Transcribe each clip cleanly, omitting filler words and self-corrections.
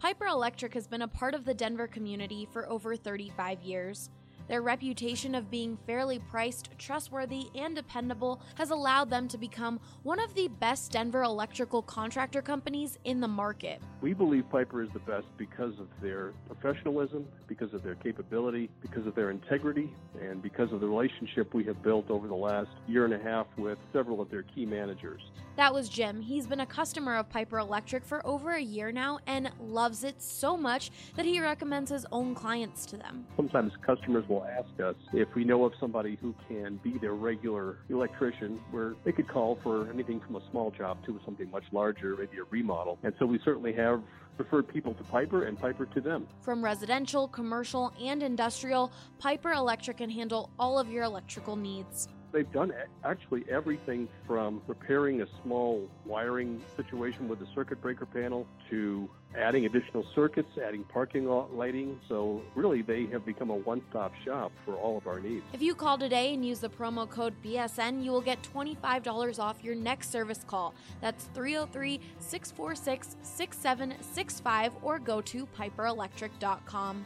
Piper Electric has been a part of the Denver community for over 35 years. Their reputation of being fairly priced, trustworthy, and dependable has allowed them to become one of the best Denver electrical contractor companies in the market. We believe Piper is the best because of their professionalism, because of their capability, because of their integrity, and because of the relationship we have built over the last year and a half with several of their key managers. That was Jim. He's been a customer of Piper Electric for over a year now and loves it so much that he recommends his own clients to them. Sometimes customers will ask us if we know of somebody who can be their regular electrician, where they could call for anything from a small job to something much larger, maybe a remodel. And so we certainly have referred people to Piper and Piper to them. From residential, commercial, and industrial, Piper Electric can handle all of your electrical needs. They've done actually everything from repairing a small wiring situation with a circuit breaker panel to adding additional circuits, adding parking lot lighting. So really, they have become a one-stop shop for all of our needs. If you call today and use the promo code BSN, you will get $25 off your next service call. That's 303-646-6765 or go to piperelectric.com.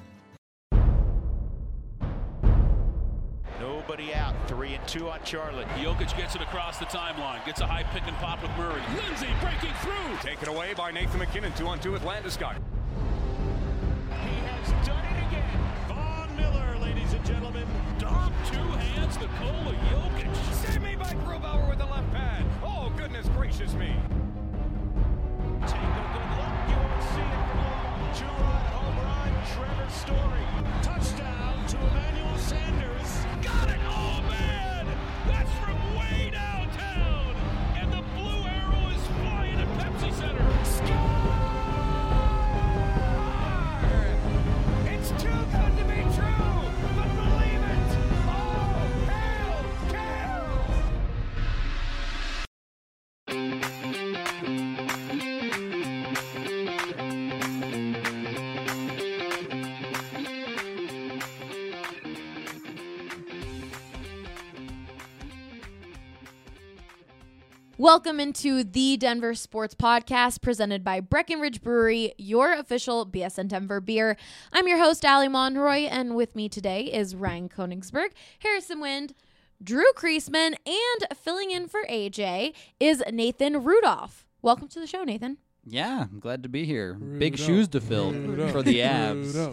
Nobody out. 3-2 on Charlotte. Jokic gets it across the timeline. Gets a high pick and pop with Murray. Lindsay breaking through. Taken away by Nathan McKinnon. 2-on-2 with Landeskog. He has done it again. Von Miller, ladies and gentlemen. Dom, two hands, Nikola Jokic. Save me by Grubauer with the left pad. Oh, goodness gracious me. Take a good look. You won't see it for long. Two-run home run. Trevor Story. Touchdown to Emmanuel Sanders. Got it! Oh, man! That's from way downtown! And the blue arrow is flying at Pepsi Center. Score! It's too good to be true, but believe it! Oh, hail, Welcome into the Denver Sports Podcast presented by Breckenridge Brewery, your official BSN Denver beer. I'm your host, Allie Monroy, and with me today is Ryan Koenigsberg, Harrison Wind, Drew Kreisman, and filling in for AJ is Nathan Rudolph. Welcome to the show, Nathan. Yeah, I'm glad to be here. Big shoes to fill for the Avs.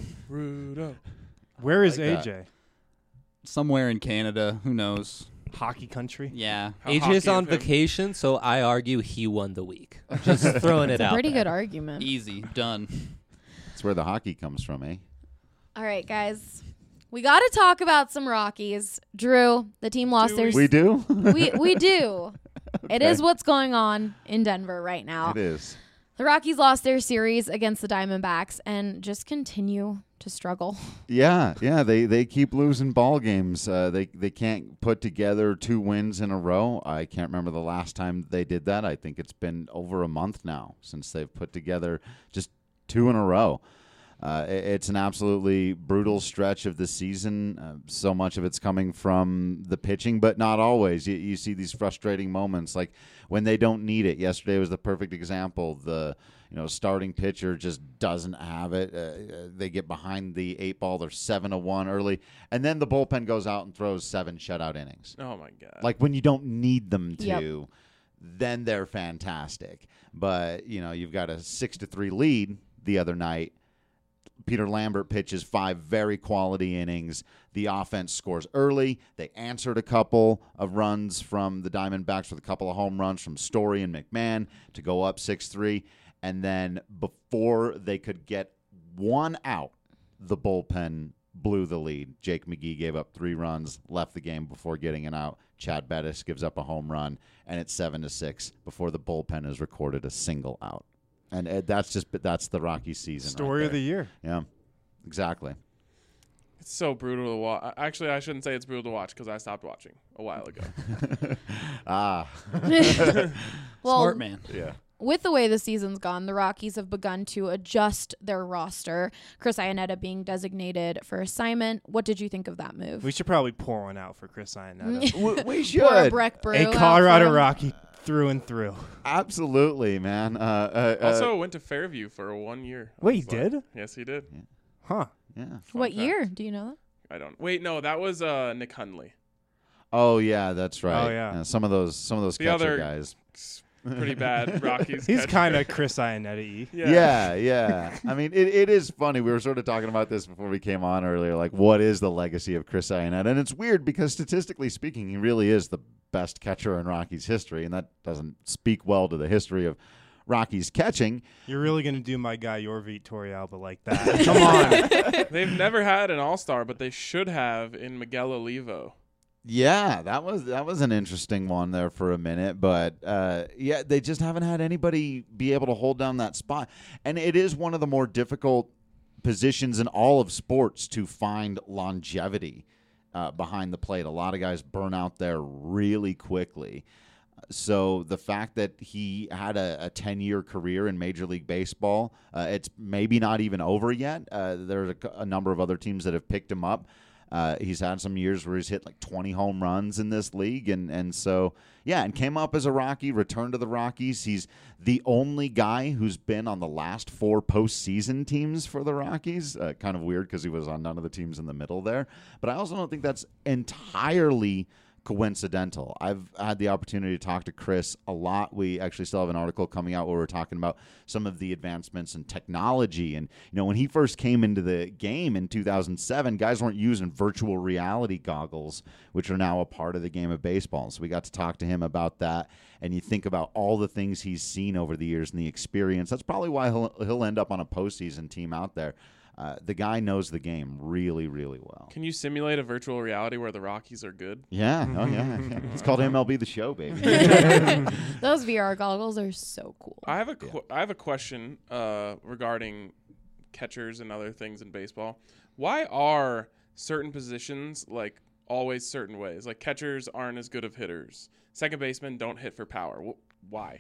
Where is Like AJ? Somewhere in Canada, who knows? Hockey country? Yeah. AJ's on vacation, so I argue he won the week. Just throwing it out. Pretty there. good argument. Easy. Done. That's where the hockey comes from, eh? All right, guys. We got to talk about some Rockies. Drew, the team lost their... We do? We do. It is what's going on in Denver right now. It is. The Rockies lost their series against the Diamondbacks and just continue to struggle. Yeah. They keep losing ball games. They can't put together 2 wins in a row. I can't remember the last time they did that. I think it's been over a month now since they've put together just 2 in a row. It's an absolutely brutal stretch of the season. So much of it's coming from the pitching, but not always. You see these frustrating moments, like when they don't need it. Yesterday was the perfect example. The starting pitcher just doesn't have it. They get behind the 8 ball. They're 7-1 early, and then the bullpen goes out and throws 7 shutout innings. Oh my God! Like when you don't need them to. Yep. Then they're fantastic. But you've got a 6-3 lead the other night. Peter Lambert pitches 5 very quality innings. The offense scores early. They answered a couple of runs from the Diamondbacks with a couple of home runs from Story and McMahon to go up 6-3. And then before they could get 1 out, the bullpen blew the lead. Jake McGee gave up 3 runs, left the game before getting an out. Chad Bettis gives up a home run, and it's 7-6 before the bullpen has recorded a single out. And that's the Rocky season. Story of the year. Yeah, exactly. It's so brutal to watch. Actually, I shouldn't say it's brutal to watch because I stopped watching a while ago. Well, Smart man. Yeah. With the way the season's gone, the Rockies have begun to adjust their roster. Chris Iannetta being designated for assignment. What did you think of that move? We should probably pour one out for Chris Iannetta. We should. Pour a Breck Brew A out Colorado for him. Rocky through and through. Absolutely, man. Also went to Fairview for 1 year. Wait, he did? Yes, he did. Huh. Yeah. What fact. year? Do you know that? I don't. Wait, no, that was Nick Hundley. Oh yeah, that's right. Oh, yeah. Some of those The catcher other guys. Pretty bad Rockies. He's catcher. kind of Chris Iannetti. Yeah. I mean, it is funny. We were sort of talking about this before we came on earlier. Like, what is the legacy of Chris Iannetta? And it's weird because statistically speaking, he really is the best catcher in Rockies history, and that doesn't speak well to the history of Rockies catching. You're really going to do my guy Yorvit Torrealba like that? Come on. They've never had an all-star, but they should have in Miguel Olivo. Yeah, that was an interesting one there for a minute, but yeah, they just haven't had anybody be able to hold down that spot, and it is one of the more difficult positions in all of sports to find longevity behind the plate. A lot of guys burn out there really quickly. So the fact that he had a 10-year career in Major League Baseball, it's maybe not even over yet. There's a number of other teams that have picked him up. He's had some years where he's hit like 20 home runs in this league. And so, yeah, and came up as a Rocky, returned to the Rockies. He's the only guy who's been on the last 4 postseason teams for the Rockies. Kind of weird because he was on none of the teams in the middle there. But I also don't think that's entirely coincidental. I've had the opportunity to talk to Chris a lot. We actually still have an article coming out where we're talking about some of the advancements in technology. And, when he first came into the game in 2007, guys weren't using virtual reality goggles, which are now a part of the game of baseball. So we got to talk to him about that. And you think about all the things he's seen over the years and the experience. That's probably why he'll end up on a postseason team out there. The guy knows the game really, really well. Can you simulate a virtual reality where the Rockies are good? Yeah. Oh, yeah. It's called MLB The Show, baby. Those VR goggles are so cool. I have a question regarding catchers and other things in baseball. Why are certain positions like always certain ways? Like catchers aren't as good of hitters. Second basemen don't hit for power. Why?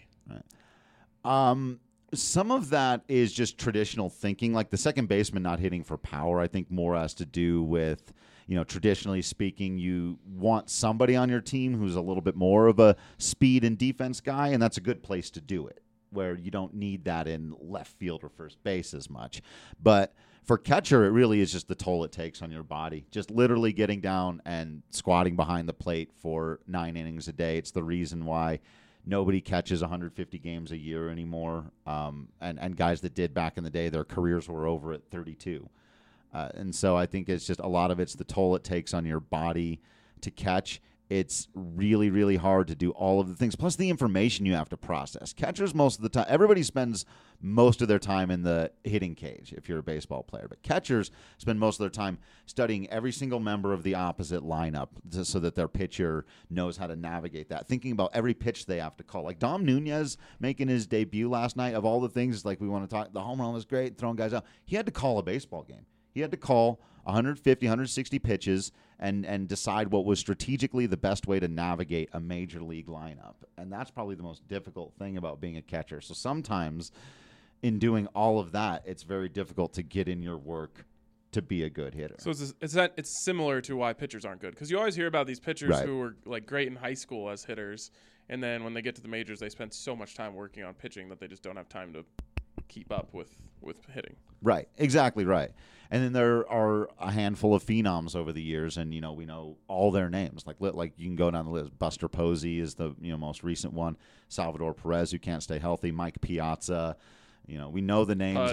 Right. Some of that is just traditional thinking, like the second baseman not hitting for power. I think more has to do with, traditionally speaking, you want somebody on your team who's a little bit more of a speed and defense guy, and that's a good place to do it, where you don't need that in left field or first base as much. But for catcher, it really is just the toll it takes on your body. Just literally getting down and squatting behind the plate for 9 innings a day. It's the reason why nobody catches 150 games a year anymore, and guys that did back in the day, their careers were over at 32. And so I think it's just a lot of it's the toll it takes on your body to catch. It's really, really hard to do all of the things, plus the information you have to process. Catchers, most of the time, everybody spends most of their time in the hitting cage if you're a baseball player, but catchers spend most of their time studying every single member of the opposite lineup so that their pitcher knows how to navigate that, thinking about every pitch they have to call. Like Dom Nunez making his debut last night, of all the things, like we want to talk, the home run was great, throwing guys out. He had to call a baseball game. He had to call 150, 160 pitches and decide what was strategically the best way to navigate a major league lineup. And that's probably the most difficult thing about being a catcher. So sometimes in doing all of that, it's very difficult to get in your work to be a good hitter. So it's similar to why pitchers aren't good, because you always hear about these pitchers Right. who were like great in high school as hitters, and then when they get to the majors, they spend so much time working on pitching that they just don't have time to keep up with hitting. Right, exactly right. And then there are a handful of phenoms over the years, and we know all their names. Like you can go down the list. Buster Posey is the most recent one. Salvador Perez, who can't stay healthy. Mike Piazza. We know the names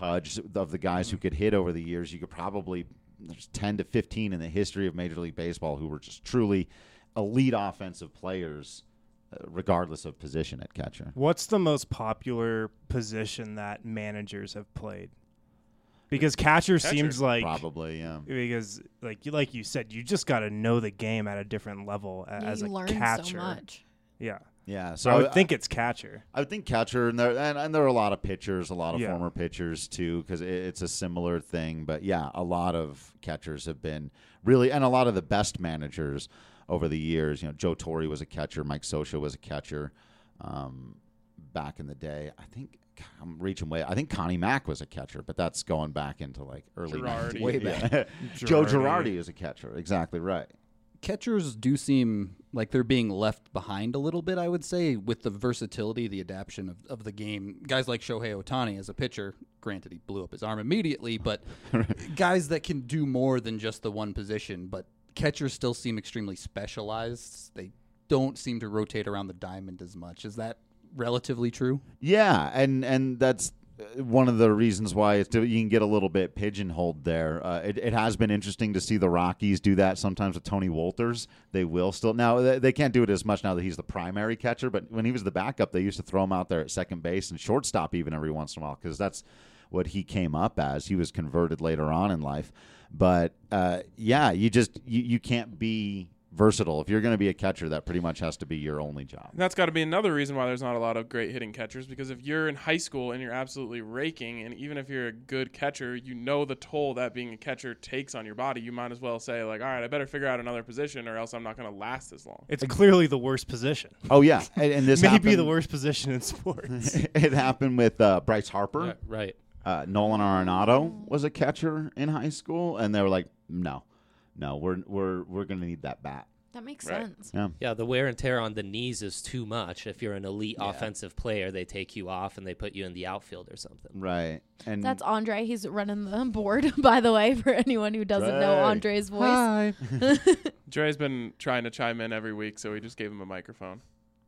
of the guys who could hit over the years. You could probably there's 10 to 15 in the history of Major League Baseball who were just truly elite offensive players, regardless of position at catcher. What's the most popular position that managers have played? Because catcher seems like probably, yeah. Because like you said, you just got to know the game at a different level as a learn catcher. so much. Yeah. Yeah, So I would think it's catcher. I would think catcher, and there are a lot of pitchers, a lot of Yeah. former pitchers too, because it's a similar thing. But yeah, a lot of catchers have been really, and a lot of the best managers over the years. Joe Torre was a catcher, Mike Scioscia was a catcher back in the day. I think I'm reaching way. I think Connie Mack was a catcher, but that's going back into like early Girardi. 90s. Way back. Yeah. Joe Girardi is a catcher. Exactly right. Catchers do seem like they're being left behind a little bit, I would say, with the versatility, the adaptation of the game. Guys like Shohei Ohtani as a pitcher, granted he blew up his arm immediately, but guys that can do more than just the one position. But catchers still seem extremely specialized. They don't seem to rotate around the diamond as much. Is that relatively true? Yeah, and that's one of the reasons why you can get a little bit pigeonholed there. It has been interesting to see the Rockies do that sometimes with Tony Wolters. They will still. Now, they can't do it as much now that he's the primary catcher, but when he was the backup, they used to throw him out there at second base and shortstop even every once in a while because that's what he came up as. He was converted later on in life. But, you can't be versatile. If you're going to be a catcher, that pretty much has to be your only job. And that's got to be another reason why there's not a lot of great hitting catchers, because if you're in high school and you're absolutely raking, and even if you're a good catcher, you know the toll that being a catcher takes on your body, you might as well say, like, all right, I better figure out another position or else I'm not going to last as long. It's clearly the worst position. Oh, yeah. And this maybe the worst position in sports. It happened with Bryce Harper. Yeah, right. Nolan Arenado was a catcher in high school, and they were like, no, we're going to need that bat. That makes sense. Yeah, the wear and tear on the knees is too much. If you're an elite offensive player, they take you off and they put you in the outfield or something. Right. And that's Andre. He's running the board, by the way, for anyone who doesn't know Andre's voice. Hi. Dre's been trying to chime in every week, so we just gave him a microphone.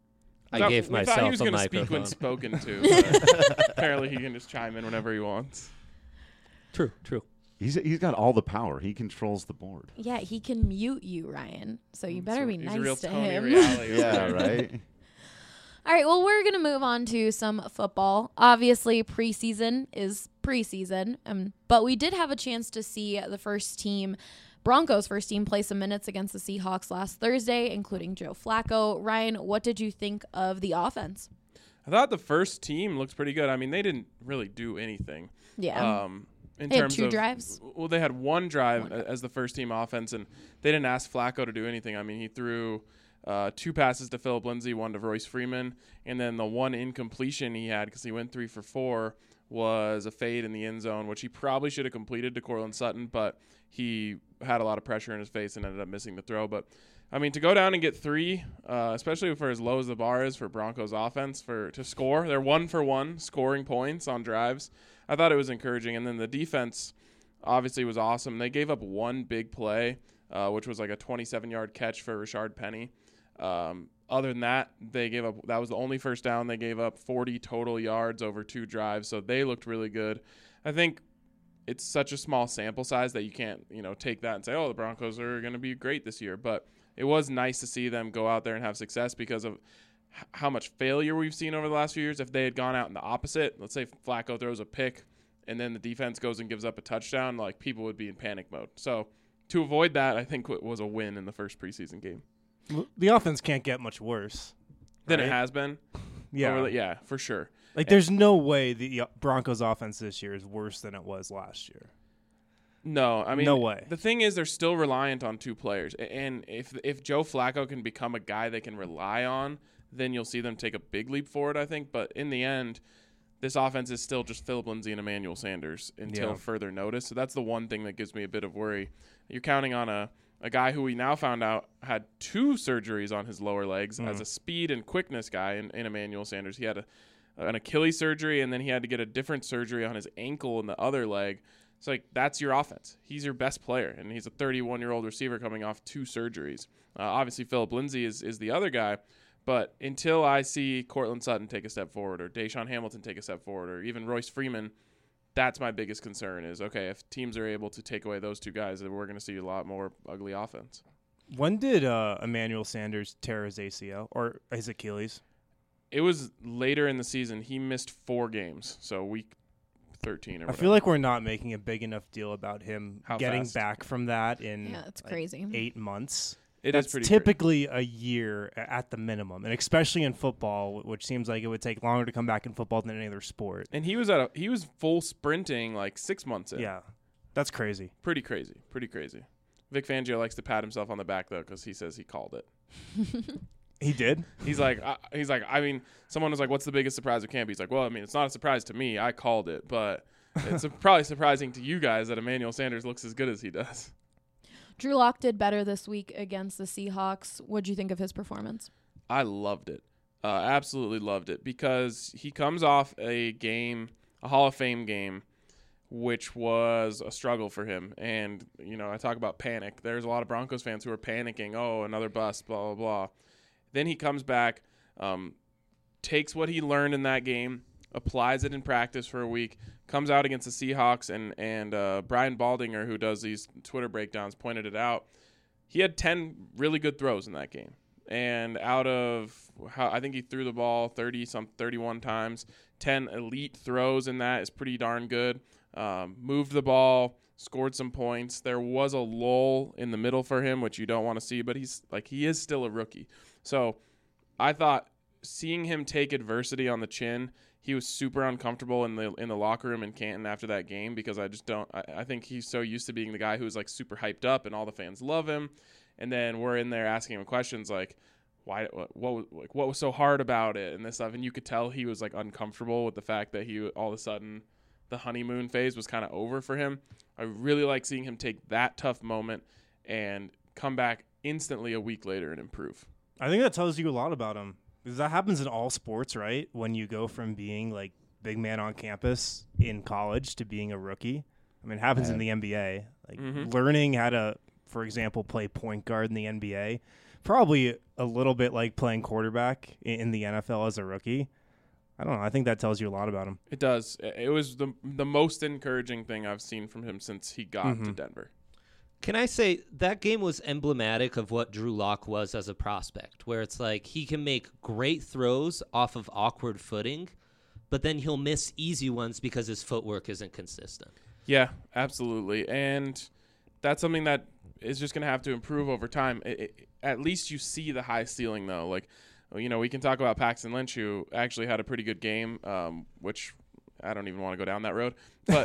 I gave myself a microphone. He was going to speak when spoken to, but apparently he can just chime in whenever he wants. True. He's got all the power. He controls the board. Yeah, he can mute you, Ryan. So you better be nice a real to Tony him. Yeah, right. All right, well, we're going to move on to some football. Obviously, preseason is preseason, but we did have a chance to see the Broncos' first team, play some minutes against the Seahawks last Thursday, including Joe Flacco. Ryan, what did you think of the offense? I thought the first team looked pretty good. I mean, they didn't really do anything. Yeah. They had two drives? Well, they had one drive as the first team offense, and they didn't ask Flacco to do anything. I mean, he threw 2 passes to Phillip Lindsay, 1 to Royce Freeman, and then the one incompletion he had, because he went 3 for 4, was a fade in the end zone, which he probably should have completed to Courtland Sutton, but he had a lot of pressure in his face and ended up missing the throw. But, I mean, to go down and get 3, especially for as low as the bar is for Broncos offense, to score, they're 1 for 1 scoring points on drives. I thought it was encouraging. And then the defense obviously was awesome. They gave up one big play, which was like a 27-yard catch for Rashard Penny. Other than that, that was the only first down. They gave up 40 total yards over 2 drives, so they looked really good. I think it's such a small sample size that you can't, take that and say, oh, the Broncos are going to be great this year. But it was nice to see them go out there and have success because of how much failure we've seen over the last few years. If they had gone out in the opposite, let's say Flacco throws a pick and then the defense goes and gives up a touchdown, like people would be in panic mode. So to avoid that, I think it was a win in the first preseason game. The offense can't get much worse than it has been. Yeah, for sure. There's no way the Broncos offense this year is worse than it was last year. No, I mean, no way. The thing is, they're still reliant on 2 players, and if Joe Flacco can become a guy they can rely on, then you'll see them take a big leap forward, I think. But in the end, this offense is still just Phillip Lindsay and Emmanuel Sanders until further notice. So that's the one thing that gives me a bit of worry. You're counting on a guy who we now found out had 2 surgeries on his lower legs as a speed and quickness guy in Emmanuel Sanders. He had an Achilles surgery, and then he had to get a different surgery on his ankle in the other leg. It's like, that's your offense. He's your best player, and he's a 31-year-old receiver coming off 2 surgeries. Obviously, Phillip Lindsay is the other guy. But until I see Courtland Sutton take a step forward or Deshaun Hamilton take a step forward or even Royce Freeman, that's my biggest concern is, okay, if teams are able to take away those 2 guys, then we're going to see a lot more ugly offense. When did Emmanuel Sanders tear his ACL or his Achilles? It was later in the season. He missed 4 games, so week 13 or whatever. I feel like we're not making a big enough deal about him getting fast? back from that in it's crazy. 8 months. That's typically a year at the minimum, and especially in football, which seems like it would take longer to come back in football than any other sport. And he was full sprinting like 6 months in. Yeah, that's crazy. Pretty crazy. Vic Fangio likes to pat himself on the back though, because he says he called it. He did. He's like, I mean, someone was like, "What's the biggest surprise of camp?" He's like, "Well, I mean, it's not a surprise to me. I called it, but it's probably surprising to you guys that Emmanuel Sanders looks as good as he does." Drew Lock did better this week against the Seahawks. What'd you think of his performance? I loved it. Absolutely loved it, because he comes off a Hall of Fame game, which was a struggle for him. And, I talk about panic. There's a lot of Broncos fans who are panicking. Oh, another bust, blah, blah, blah. Then he comes back, takes what he learned in that game, applies it in practice for a week, comes out against the Seahawks, and Brian Baldinger, who does these Twitter breakdowns, pointed it out. He had 10 really good throws in that game. And out of, I think he threw the ball 31 times, 10 elite throws in that is pretty darn good. Moved the ball, scored some points. There was a lull in the middle for him, which you don't want to see, but he is still a rookie. So I thought seeing him take adversity on the chin, he was super uncomfortable in the locker room in Canton after that game, because I think he's so used to being the guy who's like super hyped up and all the fans love him. And then we're in there asking him questions like, what was so hard about it and this stuff. And you could tell he was like uncomfortable with the fact that he all of a sudden the honeymoon phase was kind of over for him. I really like seeing him take that tough moment and come back instantly a week later and improve. I think that tells you a lot about him, because that happens in all sports, right? When you go from being like big man on campus in college to being a rookie. I mean, it happens in the NBA. Like learning how to, for example, play point guard in the NBA, probably a little bit like playing quarterback in the NFL as a rookie. I don't know. I think that tells you a lot about him. It does. It was the most encouraging thing I've seen from him since he got to Denver. Can I say that game was emblematic of what Drew Lock was as a prospect, where it's like he can make great throws off of awkward footing, but then he'll miss easy ones because his footwork isn't consistent. Yeah, absolutely. And that's something that is just going to have to improve over time. At least you see the high ceiling, though. Like, we can talk about Paxton Lynch, who actually had a pretty good game, which I don't even want to go down that road. But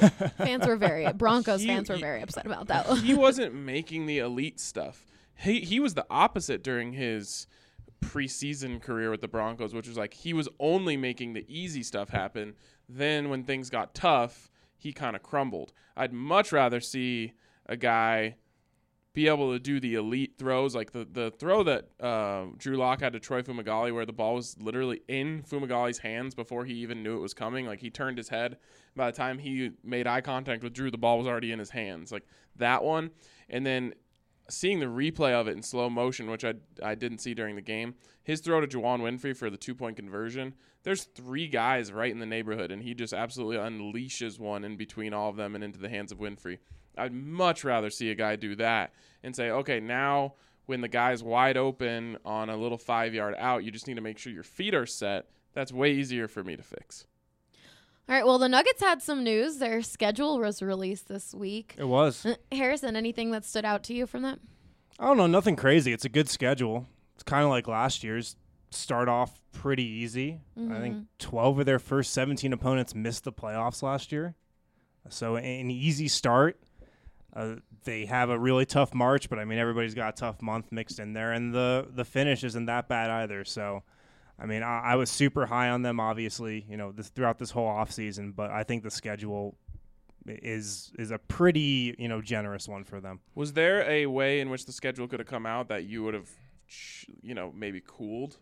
Broncos fans were very upset about that. He wasn't making the elite stuff. He was the opposite during his preseason career with the Broncos, which was like he was only making the easy stuff happen. Then when things got tough, he kind of crumbled. I'd much rather see a guy be able to do the elite throws, like the throw that Drew Lock had to Troy Fumagalli, where the ball was literally in Fumagalli's hands before he even knew it was coming. Like, he turned his head. By the time he made eye contact with Drew, the ball was already in his hands. Like, that one. And then seeing the replay of it in slow motion, which I didn't see during the game, his throw to Juwan Winfrey for the 2-point conversion, there's 3 guys right in the neighborhood, and he just absolutely unleashes one in between all of them and into the hands of Winfrey. I'd much rather see a guy do that and say, okay, now when the guy's wide open on a little 5-yard out, you just need to make sure your feet are set. That's way easier for me to fix. All right, well, the Nuggets had some news. Their schedule was released this week. It was. Harrison, anything that stood out to you from that? I don't know, nothing crazy. It's a good schedule. It's kind of like last year's. Start off pretty easy. I think 12 of their first 17 opponents missed the playoffs last year. So an easy start. They have a really tough March, but I mean, everybody's got a tough month mixed in there, and the finish isn't that bad either. So, I mean, I was super high on them, obviously, throughout this whole offseason, but I think the schedule is a pretty, generous one for them. Was there a way in which the schedule could have come out that you would have, maybe cooled?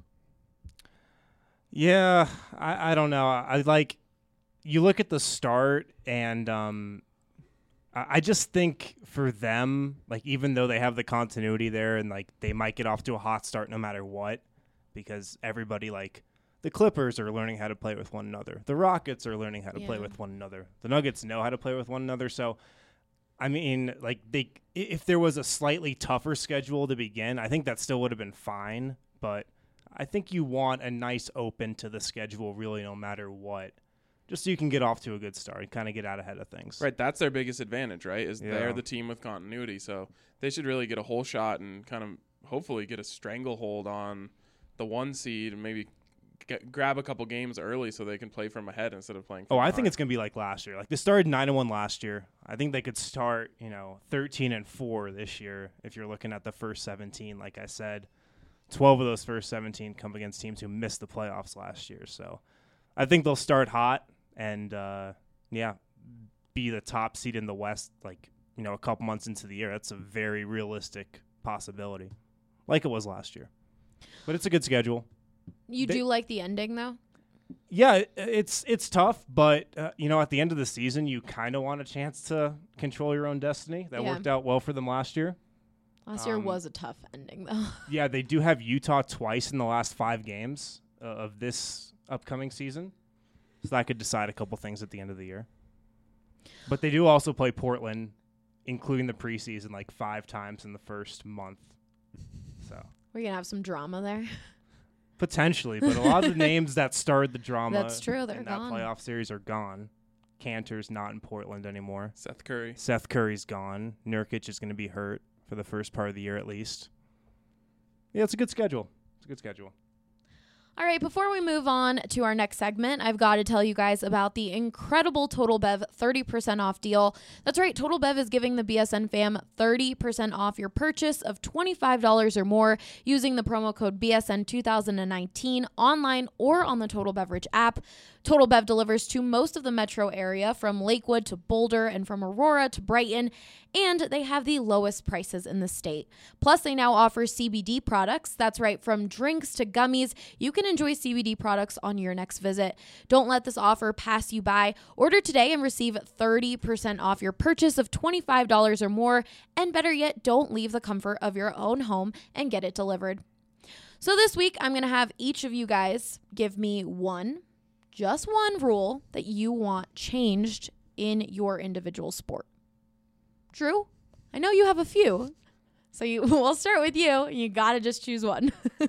Yeah, I don't know. You look at the start, and I just think for them, like, even though they have the continuity there and, like, they might get off to a hot start no matter what, because everybody, like, the Clippers are learning how to play with one another. The Rockets are learning how to play with one another. The Nuggets know how to play with one another. So, I mean, like, if there was a slightly tougher schedule to begin, I think that still would have been fine, but I think you want a nice open to the schedule really no matter what, just so you can get off to a good start and kind of get out ahead of things. Right, that's their biggest advantage, right, is they're the team with continuity. So they should really get a whole shot and kind of hopefully get a stranglehold on the 1 seed and maybe grab a couple games early so they can play from ahead instead of playing from I behind. think it's going to be like last year. Like, they started 9-1 last year. I think they could start, 13-4 this year if you're looking at the first 17, like I said. 12 of those first 17 come against teams who missed the playoffs last year. So I think they'll start hot and, be the top seed in the West, like, a couple months into the year. That's a very realistic possibility, like it was last year. But it's a good schedule. You do like the ending, though? Yeah, it's tough, but at the end of the season, you kind of want a chance to control your own destiny. That worked out well for them last year. Last year was a tough ending, though. Yeah, they do have Utah twice in the last 5 games of this upcoming season, so that could decide a couple things at the end of the year. But they do also play Portland, including the preseason, like 5 times in the first month. So We're going to have some drama there. potentially, but a lot of the names that started the drama That's true, they're in gone. that playoff series are gone. Cantor's not in Portland anymore. Seth Curry. Seth Curry's gone. Nurkic is going to be hurt for the first part of the year at least. Yeah, it's a good schedule. All right, before we move on to our next segment, I've got to tell you guys about the incredible Total Bev 30% off deal. That's right, Total Bev is giving the BSN fam 30% off your purchase of $25 or more using the promo code BSN 2019 online or on the Total Beverage app. Total Bev delivers to most of the metro area, from Lakewood to Boulder and from Aurora to Brighton, and they have the lowest prices in the state. Plus, they now offer CBD products. That's right, from drinks to gummies, you can enjoy CBD products on your next visit. Don't let this offer pass you by. Order today and receive 30% off your purchase of $25 or more, and better yet, don't leave the comfort of your own home and get it delivered. So this week, I'm going to have each of you guys give me just one rule that you want changed in your individual sport. Drew, I know you have a few, so we'll start with you. You got to just choose one.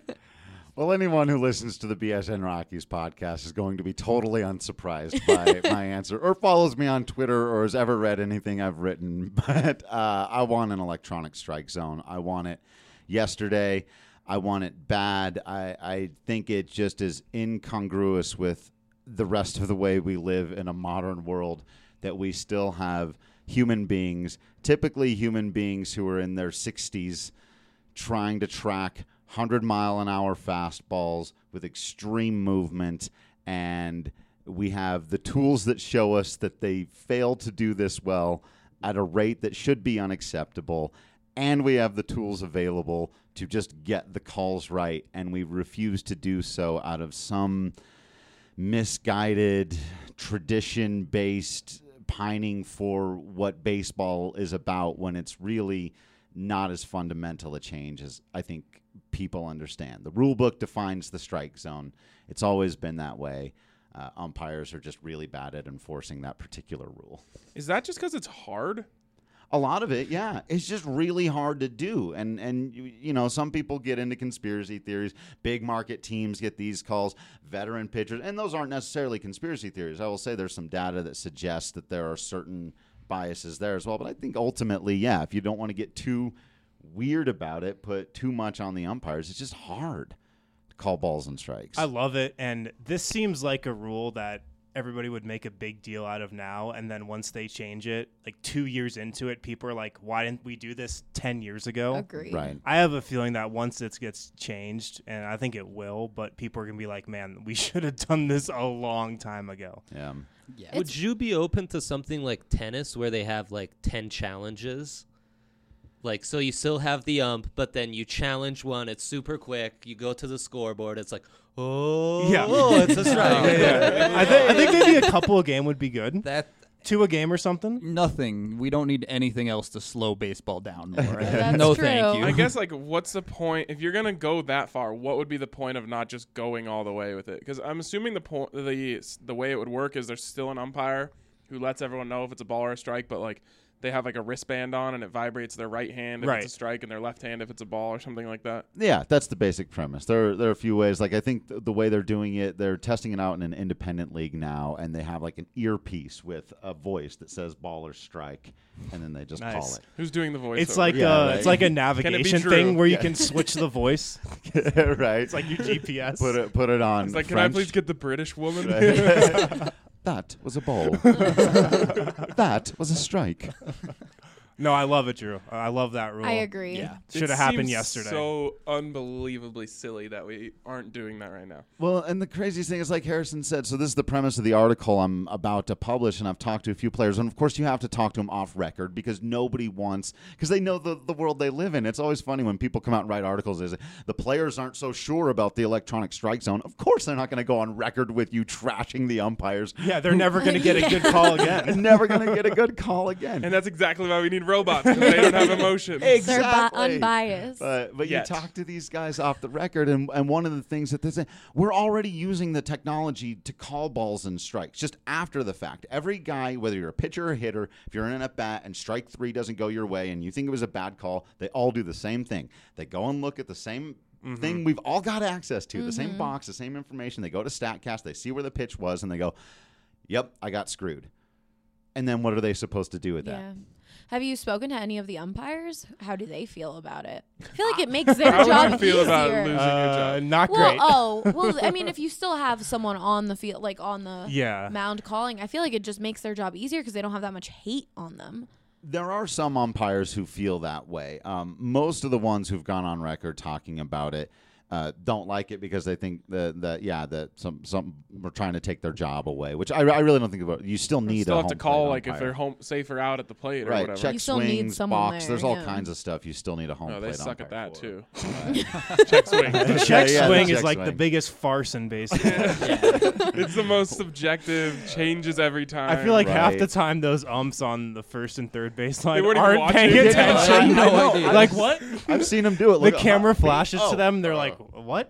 Well, anyone who listens to the BSN Rockies podcast is going to be totally unsurprised by my answer, or follows me on Twitter, or has ever read anything I've written. But I want an electronic strike zone. I want it yesterday. I want it bad. I think it just is incongruous with the rest of the way we live in a modern world, that we still have human beings, typically human beings who are in their 60s, trying to track 100-mile-an-hour fastballs with extreme movement, and we have the tools that show us that they fail to do this well at a rate that should be unacceptable, and we have the tools available to just get the calls right, and we refuse to do so out of some misguided, tradition-based pining for what baseball is about, when it's really not as fundamental a change as I think people understand. The rule book defines the strike zone. It's always been that way. Umpires are just really bad at enforcing that particular rule. Is that just because it's hard? A lot of it, yeah. It's just really hard to do. And some people get into conspiracy theories. Big market teams get these calls, veteran pitchers, and those aren't necessarily conspiracy theories. I will say there's some data that suggests that there are certain biases there as well. But I think ultimately, yeah, if you don't want to get too weird about it, put too much on the umpires, it's just hard to call balls and strikes. I love it, and this seems like a rule that everybody would make a big deal out of now, and then once they change it, like 2 years into it, people are like, why didn't we do this 10 years ago? Agreed. Right. I have a feeling that once it gets changed, and I think it will, but people are going to be like, man, we should have done this a long time ago. Yeah. Would you be open to something like tennis where they have like 10 challenges? Like, so you still have the ump, but then you challenge one. It's super quick. You go to the scoreboard. It's like, it's a strike. I think maybe a couple a game would be good. That 2 a game or something. nothing. We don't need anything else to slow baseball down more. That's No, true. thank you. I guess, like, what's the point? If you're going to go that far, what would be the point of not just going all the way with it? Because I'm assuming the way it would work is there's still an umpire who lets everyone know if it's a ball or a strike, but, like, they have like a wristband on and it vibrates their right hand if it's a strike and their left hand if it's a ball or something like that. Yeah, that's the basic premise. There are a few ways. Like, I think the way they're doing it, they're testing it out in an independent league now, and they have like an earpiece with a voice that says ball or strike, and then they just call it. Who's doing the voice? It's like it's like a navigation thing where you can switch the voice. Right. It's like your GPS. Put it on. It's like, French. can I please get the British woman? That was a ball. That was a strike. No, I love it, Drew. I love that rule. I agree. Yeah, It should have happened seems yesterday. So unbelievably silly that we aren't doing that right now. Well, and the craziest thing is, like Harrison said, so this is the premise of the article I'm about to publish, and I've talked to a few players, and of course you have to talk to them off record because nobody wants, because they know the world they live in. It's always funny when people come out and write articles, is the players aren't so sure about the electronic strike zone. Of course they're not going to go on record with you trashing the umpires. Yeah, they're never going to get a good call again. Never going to get a good call again. And that's exactly why we need robots, because they don't have emotions. They're unbiased. But Yes. you talk to these guys off the record, and one of the things that they say, we're already using the technology to call balls and strikes just after the fact. Every guy, whether you're a pitcher or hitter, if you're in a bat and strike 3 doesn't go your way and you think it was a bad call, they all do the same thing. They go and look at the same thing we've all got access to, the same box, the same information. They go to StatCast, they see where the pitch was, and they go, yep, I got screwed. And then what are they supposed to do with that? Yeah. Have you spoken to any of the umpires? How do they feel about it? I feel like it makes their How job would you feel about easier. losing your job? Not Well, great. I mean, if you still have someone on the field, like on the Yeah. mound calling, I feel like it just makes their job easier because they don't have that much hate on them. There are some umpires who feel that way. Most of the ones who've gone on record talking about it don't like it because they think that some are trying to take their job away, which I really don't think about. You still need Still a have to home call plate like if umpire. they're home safe or out at the plate or right, whatever. check You still need swings, someone box. there, There's all yeah. kinds of stuff you still need a home No, plate they suck umpire at that for. too. Check swing. The check Yeah, swing the is check like the swing. biggest farce in baseball. It's the most subjective, changes every time. I feel like half Right. the time those umps on the first and third baseline They weren't even aren't watching. paying Yeah, attention. I know. know. idea. Like what? I've seen them do it. The Look, camera flashes to oh, them. They're like, "What?"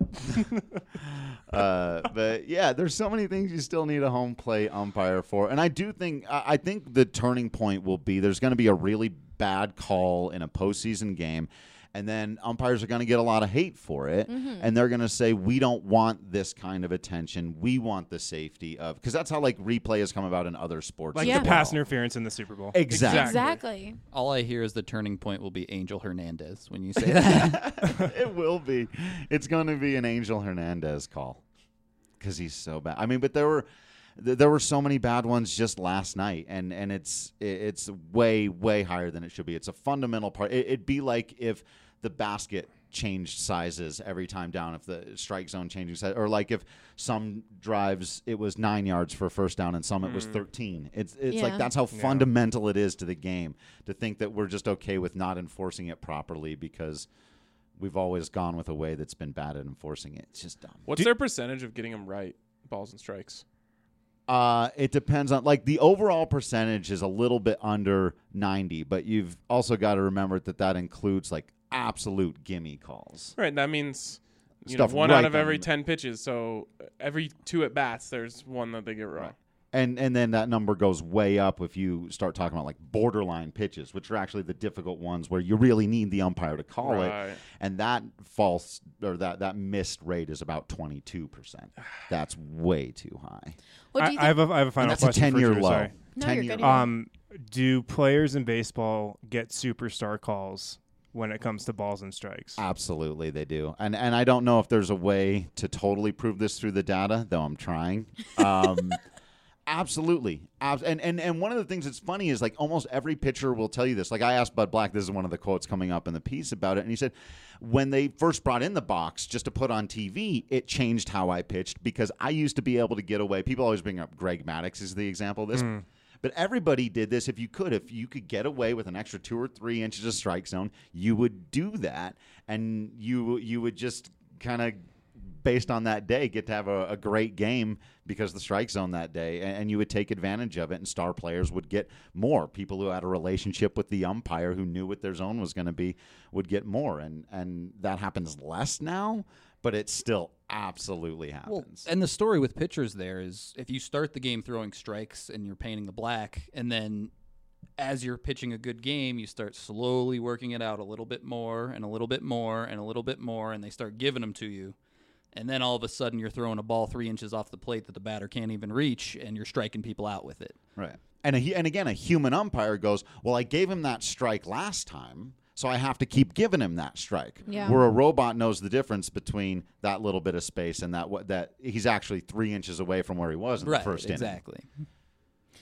But yeah, there's so many things you still need a home plate umpire for, and I think the turning point will be there's going to be a really bad call in a postseason game, and then umpires are going to get a lot of hate for it, and they're going to say we don't want this kind of attention. We want the safety of, because that's how like replay has come about in other sports, Like Yeah. the pass interference in the Super Bowl. Exactly. Exactly. All I hear is the turning point will be Angel Hernandez when you say that. It will be. It's going to be an Angel Hernandez call because he's so bad. I mean, but there were so many bad ones just last night, and it's way higher than it should be. It's a fundamental part. It'd be like if the basket changed sizes every time down, if the strike zone changing size, or like if some drives it was 9 yards for a first down and some it was 13. It's Yeah. like that's how fundamental it is to the game to think that we're just okay with not enforcing it properly because we've always gone with a way that's been bad at enforcing it. It's just dumb. What's their percentage of getting them right, balls and strikes? It depends on, like, the overall percentage is a little bit under 90, but you've also got to remember that includes like absolute gimme calls. Right, that means Stuff one right out of down every the- 10 pitches. So every 2 at bats, there's one that they get wrong. Right. And then that number goes way up if you start talking about like borderline pitches, which are actually the difficult ones where you really need the umpire to call Right. it. And that that missed rate is about 22%. That's way too high. What do you I think? have a And final that's a question for 10-year Drew, low. sorry. No, you're 10-year good. low. Do players in baseball get superstar calls when it comes to balls and strikes? Absolutely, they do. And I don't know if there's a way to totally prove this through the data, though I'm trying. Absolutely. And one of the things that's funny is like almost every pitcher will tell you this. Like I asked Bud Black, this is one of the quotes coming up in the piece about it, and he said, when they first brought in the box just to put on TV, it changed how I pitched because I used to be able to get away. People always bring up Greg Maddux as the example of this. But everybody did this. If you could get away with an extra 2 or 3 inches of strike zone, you would do that, and you would just kind of, based on that day, get to have a great game because the strike zone that day, and you would take advantage of it, and star players would get more. People who had a relationship with the umpire who knew what their zone was going to be would get more, and that happens less now, but it still absolutely happens. Well, and the story with pitchers there is if you start the game throwing strikes and you're painting the black, and then as you're pitching a good game, you start slowly working it out a little bit more and a little bit more and a little bit more, and they start giving them to you. And then all of a sudden you're throwing a ball 3 inches off the plate that the batter can't even reach, and you're striking people out with it. Right. And again, a human umpire goes, well, I gave him that strike last time, so I have to keep giving him that strike. Yeah. Where a robot knows the difference between that little bit of space and that he's actually 3 inches away from where he was in the first inning. Exactly.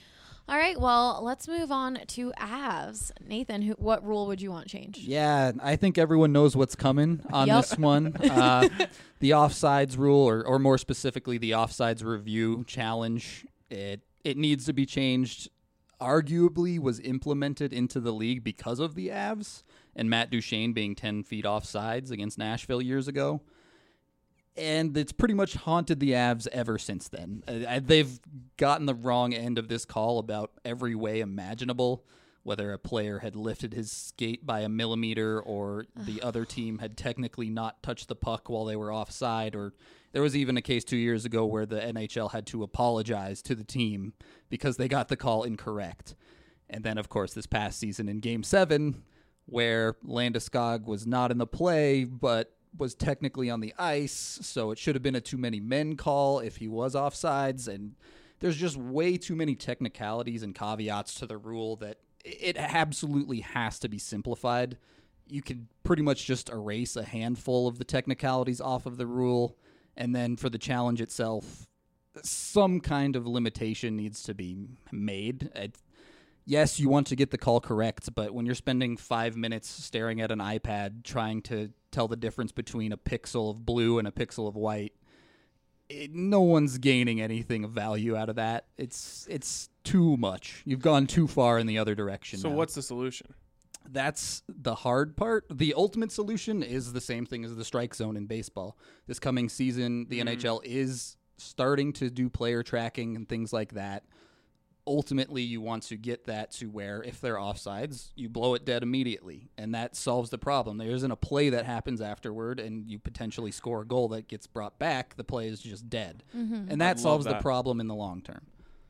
All right, well, let's move on to Avs. Nathan, what rule would you want changed? Yeah, I think everyone knows what's coming on Yep. this one. The offsides rule, or more specifically, the offsides review challenge, it needs to be changed. Arguably was implemented into the league because of the Avs and Matt Duchene being 10 feet offsides against Nashville years ago. And it's pretty much haunted the Avs ever since then. They've gotten the wrong end of this call about every way imaginable, whether a player had lifted his skate by a millimeter or the other team had technically not touched the puck while they were offside, or there was even a case 2 years ago where the NHL had to apologize to the team because they got the call incorrect. And then, of course, this past season in Game 7, where Landeskog was not in the play, but was technically on the ice, so it should have been a too many men call if he was offsides, and there's just way too many technicalities and caveats to the rule that it absolutely has to be simplified. You could pretty much just erase a handful of the technicalities off of the rule, and then for the challenge itself, some kind of limitation needs to be made. Yes, you want to get the call correct, but when you're spending 5 minutes staring at an iPad trying to tell the difference between a pixel of blue and a pixel of white, no one's gaining anything of value out of that. It's too much. You've gone too far in the other direction. So now. what's the solution? That's the hard part. The ultimate solution is the same thing as the strike zone in baseball. This coming season, the NHL is starting to do player tracking and things like that. Ultimately, you want to get that to where if they're offsides, you blow it dead immediately, and that solves the problem. There isn't a play that happens afterward, and you potentially score a goal that gets brought back. The play is just dead, and that solves the problem in the long term.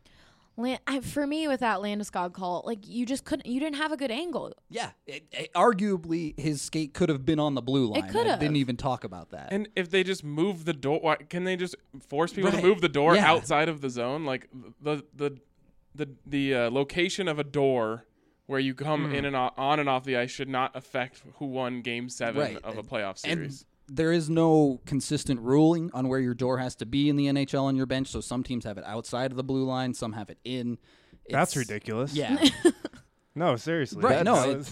For me, with that Landeskog call, like you just couldn't. You didn't have a good angle. Yeah, arguably his skate could have been on the blue line. It could have. Didn't even talk about that. And if they just move the door, can they just force people to move the door outside of the zone? Like the location of a door where you come in and on and off the ice should not affect who won Game 7 of a playoff series. And there is no consistent ruling on where your door has to be in the NHL on your bench, so some teams have it outside of the blue line, some have it in. That's ridiculous. Yeah. No, seriously. Right,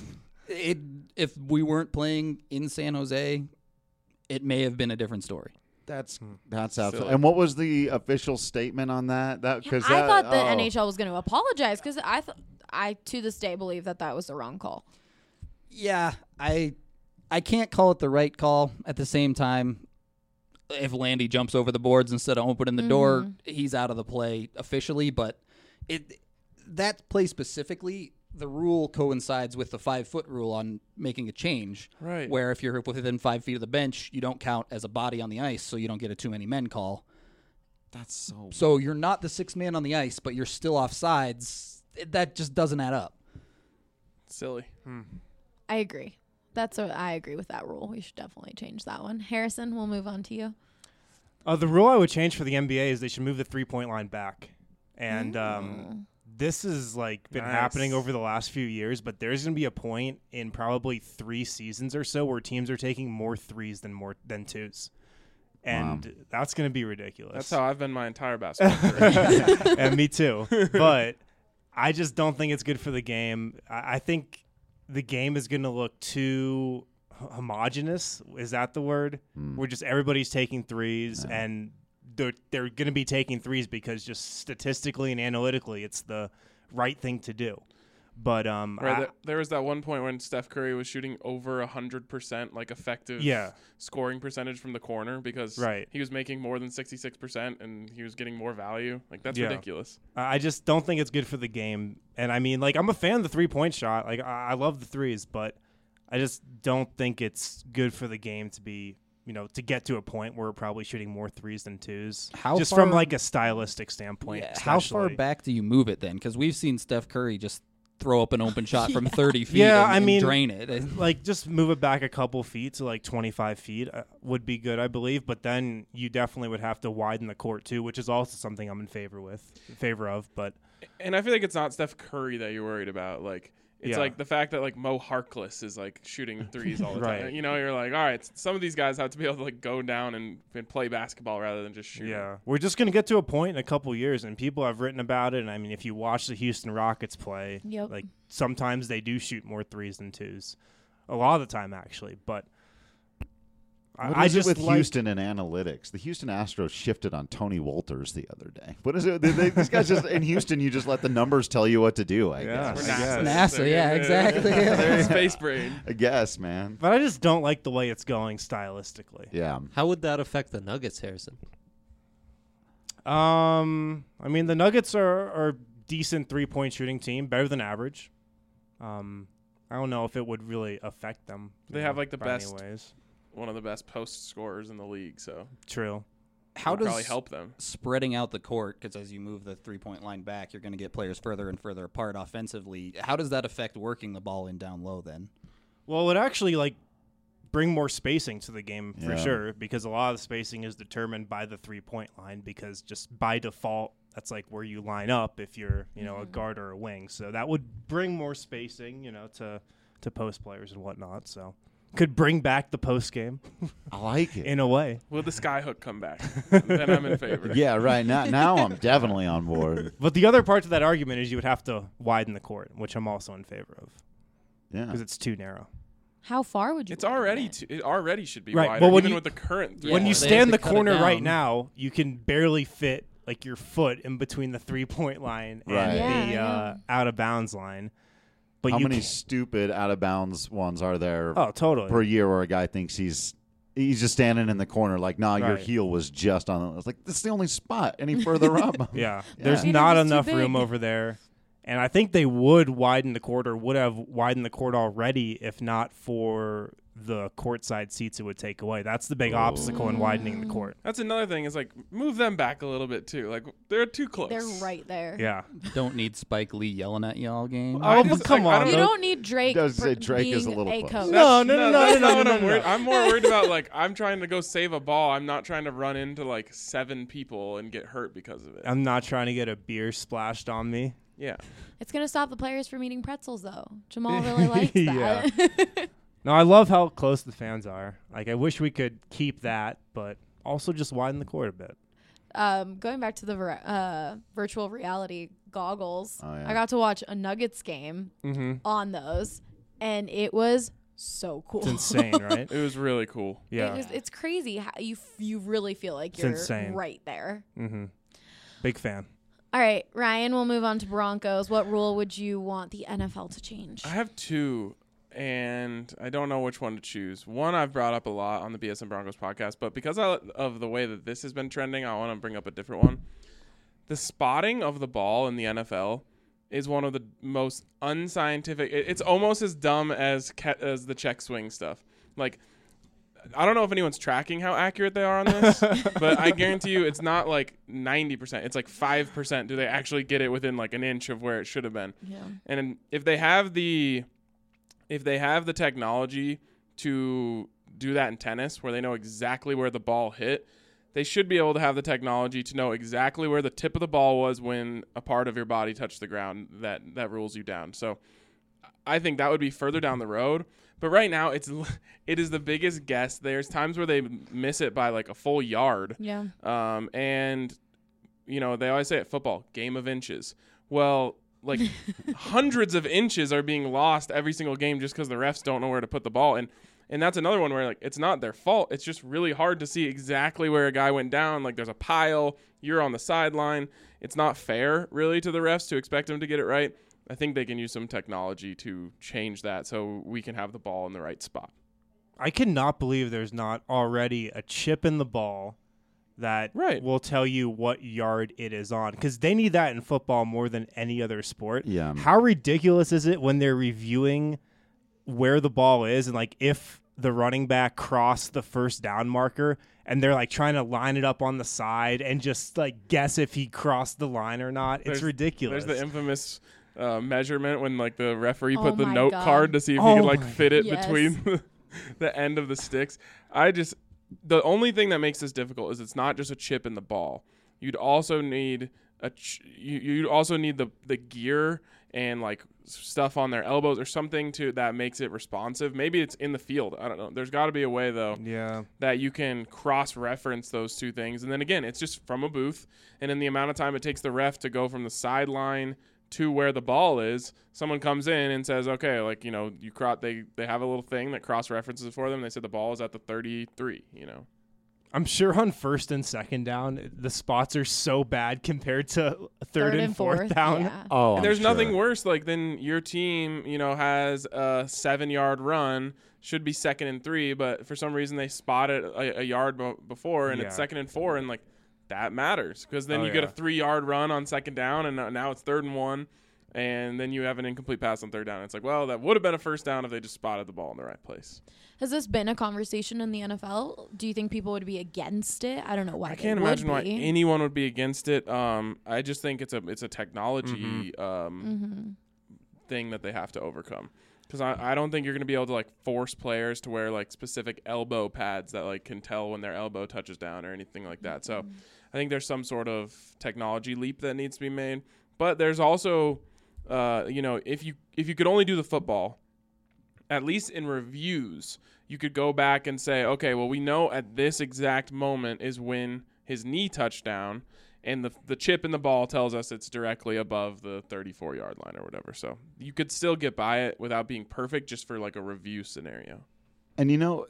if we weren't playing in San Jose, it may have been a different story. That's absolutely. And what was the official statement on that? I thought the NHL was going to apologize because I to this day believe that was the wrong call. Yeah, I can't call it the right call. At the same time, if Landy jumps over the boards instead of opening the door, he's out of the play officially. But that play specifically, the rule coincides with the 5-foot rule on making a change. Right. Where if you're within 5 feet of the bench, you don't count as a body on the ice, so you don't get a too many men call. That's so you're not the sixth man on the ice, but you're still offsides. That just doesn't add up. Silly. I agree. I agree with that rule. We should definitely change that one. Harrison, we'll move on to you. The rule I would change for the NBA is they should move the 3-point line back. And this has been happening over the last few years, but there's going to be a point in probably 3 seasons or so where teams are taking more threes than twos. And that's going to be ridiculous. That's how I've been my entire basketball career. And me too. But I just don't think it's good for the game. I think the game is going to look too homogenous. Is that the word? Where just everybody's taking threes and they're going to be taking threes because just statistically and analytically it's the right thing to do. But there was that one point when Steph Curry was shooting over 100% effective scoring percentage from the corner because he was making more than 66% and he was getting more value. That's ridiculous. I just don't think it's good for the game. And I mean, I'm a fan of the 3-point shot. I love the threes, but I just don't think it's good for the game to be, to get to a point where we're probably shooting more threes than twos. From a stylistic standpoint. Yeah, how far back do you move it then? Because we've seen Steph Curry just throw up an open shot from 30 feet and drain it. Just move it back a couple feet to 25 feet would be good, I believe. But then you definitely would have to widen the court too, which is also something I'm in favor of. But and I feel like it's not Steph Curry that you're worried about. It's like the fact that like Mo Harkless is like shooting threes all the Right. time. You know, you're like, all right, some of these guys have to be able to like go down and play basketball rather than just shoot. Yeah, we're just going to get to a point in a couple years, and people have written about it. And I mean, if you watch the Houston Rockets play, Yep. like sometimes they do shoot more threes than twos, a lot of the time actually. But What I is just it with like, Houston and analytics? The Houston Astros shifted on Tony Walters the other day. What is it? These guys just in Houston, you just let the numbers tell you what to do. I Yeah, guess. I guess. NASA, yeah, exactly. They're space brain. I guess, man. But I just don't like the way it's going stylistically. Yeah. How would that affect the Nuggets, Harrison? I mean, the Nuggets are a decent 3-point shooting team, better than average. I don't know if it would really affect them. They have like the by any best, ways. one of the best post scorers in the league. So True. How it'll does probably help them. spreading out the court, because as you move the 3-point line back, you're going to get players further and further apart offensively. How does that affect working the ball in down low then? Well, it actually like bring more spacing to the game for Yeah. sure, because a lot of the spacing is determined by the 3-point line, because just by default that's like where you line up if you're, a guard or a wing. So that would bring more spacing, to post players and whatnot. So could bring back the post game I like it. in a way. Will the skyhook come back? Then I'm in favor. Yeah, right. Now I'm definitely on board. But the other part to that argument is you would have to widen the court, which I'm also in favor of Yeah. because it's too narrow. How far would you? It's widen already it? it already should be Right. wider, Well, when even you- with the current. Yeah. When you they stand have the to cut it corner right down. now, you can barely fit like your foot in between the 3-point line Right. and Yeah, the yeah. out of bounds line. But How you many can- stupid out of bounds ones are there Oh, totally. per year where a guy thinks he's just standing in the corner like, nah, your Right. heel was just on it. It's like, this is the only spot. Any further up? Yeah. There's It not is too enough room big. over there. And I think they would widen the court or would have widened the court already if not for the courtside seats it would take away. That's the big obstacle in widening the court. That's another thing. Is like move them back a little bit too. Like they're too close. They're right there. Yeah. Don't need Spike Lee yelling at you all game. I Oh, just- but come I on. You don't- don't need Drake. I was gonna say for Drake is being a little a close. coach. No, That's not what I'm no. worried. I'm more worried about like I'm trying to go save a ball. I'm not trying to run into like 7 people and get hurt because of it. I'm not trying to get a beer splashed on me. Yeah. It's gonna stop the players from eating pretzels, though. Jamal really likes that. No, I love how close the fans are. Like, I wish we could keep that, but also just widen the court a bit. Going back to the virtual reality goggles, Oh, yeah. I got to watch a Nuggets game on those, and it was so cool. It's insane, right? It was really cool. Yeah. It's crazy how you really feel like It's you're insane. right there. Mm-hmm. Big fan. All right, Ryan, we'll move on to Broncos. What rule would you want the NFL to change? I have 2, and I don't know which one to choose. One I've brought up a lot on the BS and Broncos podcast, but because of the way that this has been trending, I want to bring up a different one. The spotting of the ball in the NFL is one of the most unscientific. It's almost as dumb as the check swing stuff. Like, I don't know if anyone's tracking how accurate they are on this, but I guarantee you it's not like 90%. It's like 5%. Do they actually get it within like an inch of where it should have been? Yeah. And if they have the technology to do that in tennis, where they know exactly where the ball hit, they should be able to have the technology to know exactly where the tip of the ball was when a part of your body touched the ground that rules you down. So I think that would be further down the road. But right now, it is the biggest guess. There's times where they miss it by like a full yard. Yeah. And, they always say at football, game of inches. Well, like hundreds of inches are being lost every single game just because the refs don't know where to put the ball. And that's another one where like it's not their fault. It's just really hard to see exactly where a guy went down. Like there's a pile, you're on the sideline. It's not fair really to the refs to expect them to get it right. I think they can use some technology to change that so we can have the ball in the right spot. I cannot believe there's not already a chip in the ball that will tell you what yard it is on, because they need that in football more than any other sport. Yeah. How ridiculous is it when they're reviewing where the ball is and like if the running back crossed the first down marker and they're like trying to line it up on the side and just like guess if he crossed the line or not? It's ridiculous. There's the infamous measurement when like the referee Oh put the my note God. card to see if he could like fit it between the end of the sticks. The only thing that makes this difficult is it's not just a chip in the ball. You'd also need you'd also need the gear and like stuff on their elbows or something that makes it responsive. Maybe it's in the field. I don't know. There's got to be a way though that you can cross-reference those two things. And then again, it's just from a booth, and in the amount of time it takes the ref to go from the sideline to where the ball is, someone comes in and says, okay, like, you know, they have a little thing that cross-references it for them. They said the ball is at the 33, you know. I'm sure on first and second down, the spots are so bad compared to third and fourth down. Yeah. Oh, And there's I'm nothing sure. worse like than your team, you know, has a 7-yard run, should be 2nd and 3, but for some reason they spot it a yard before, and it's 2nd and 4, and like that matters because then you get a 3-yard run on 2nd down, and now it's 3rd and 1, and then you have an incomplete pass on 3rd down. It's like, well, that would have been a first down if they just spotted the ball in the right place. Has this been a conversation in the NFL? Do you think people would be against it? I don't know why. I can't imagine why anyone would be against it. I just think it's a technology thing that they have to overcome. Because I don't think you're going to be able to like force players to wear like specific elbow pads that like can tell when their elbow touches down or anything like that. So I think there's some sort of technology leap that needs to be made. But there's also, you know, if you could only do the football, at least in reviews, you could go back and say, okay, well, we know at this exact moment is when his knee touched down, and the chip in the ball tells us it's directly above the 34-yard line or whatever. So you could still get by it without being perfect just for like a review scenario. And you know,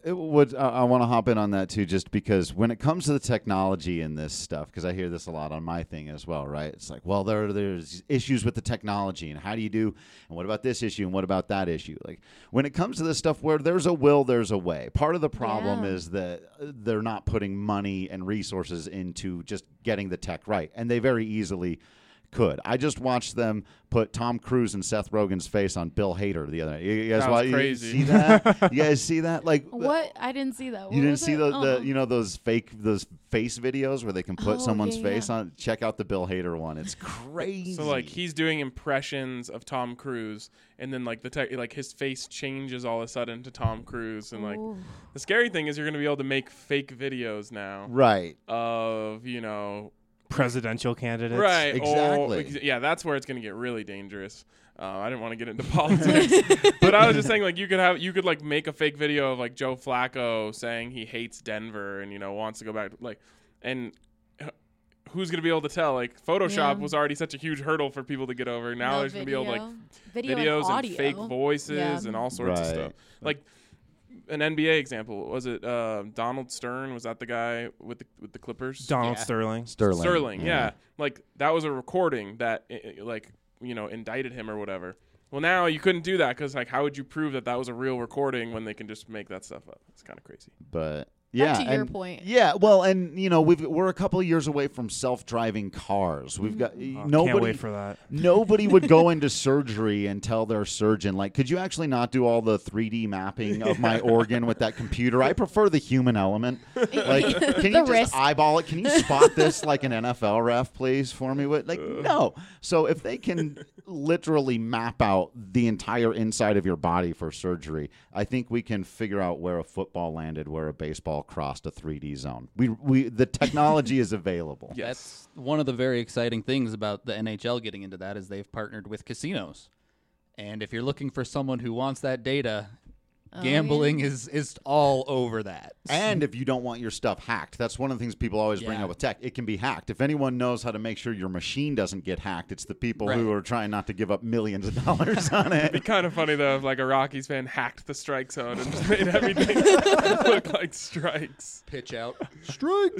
I want to hop in on that too, just because when it comes to the technology in this stuff, because I hear this a lot on my thing as well, right? It's like, well, there's issues with the technology, and how do you do, and what about this issue, and what about that issue? Like when it comes to this stuff, where there's a will, there's a way. Part of the problem is that they're not putting money and resources into just getting the tech right, and they very easily could. I just watched them put Tom Cruise and Seth Rogen's face on Bill Hader the other night. You guys That was crazy. You see that? You guys see that? Like What? I didn't see that. What you didn't was see it? the you know those face videos where they can put someone's face yeah. on? Check out the Bill Hader one. It's crazy. So like he's doing impressions of Tom Cruise, and then like like his face changes all of a sudden to Tom Cruise, and like the scary thing is you're going to be able to make fake videos now, right? Of, you know, presidential candidates. Right. Exactly. Yeah, that's where it's going to get really dangerous. I didn't want to get into politics, but I was just saying, like, you could like make a fake video of like Joe Flacco saying he hates Denver and, you know, wants to go back, like, and who's going to be able to tell? Like, Photoshop was already such a huge hurdle for people to get over. Now there's going to be able to, like, videos and fake voices and all sorts of stuff. Like, an NBA example, was it Donald Stern? Was that the guy with the Clippers? Donald Sterling. Sterling, yeah. Like, that was a recording that, like, you know, indicted him or whatever. Well, now you couldn't do that because, like, how would you prove that was a real recording when they can just make that stuff up? It's kind of crazy. But yeah, back to your point. Yeah, well, and you know, we're a couple of years away from self-driving cars. We've got nobody. Can't wait for that. Nobody would go into surgery and tell their surgeon, like, could you actually not do all the 3D mapping of my organ with that computer? I prefer the human element. Like, can you just eyeball it? Can you spot this like an NFL ref, please, for me? Like, no. So if they can literally map out the entire inside of your body for surgery, I think we can figure out where a football landed, where a baseball crossed a 3D zone. The technology is available. Yes. That's one of the very exciting things about the NHL getting into that is they've partnered with casinos. And if you're looking for someone who wants that data, gambling is all over that. And if you don't want your stuff hacked, that's one of the things people always bring up with tech. It can be hacked. If anyone knows how to make sure your machine doesn't get hacked, it's the people who are trying not to give up millions of dollars on it. It'd be kind of funny, though, if like a Rockies fan hacked the strike zone and just made everything look like strikes. Pitch out. Strike.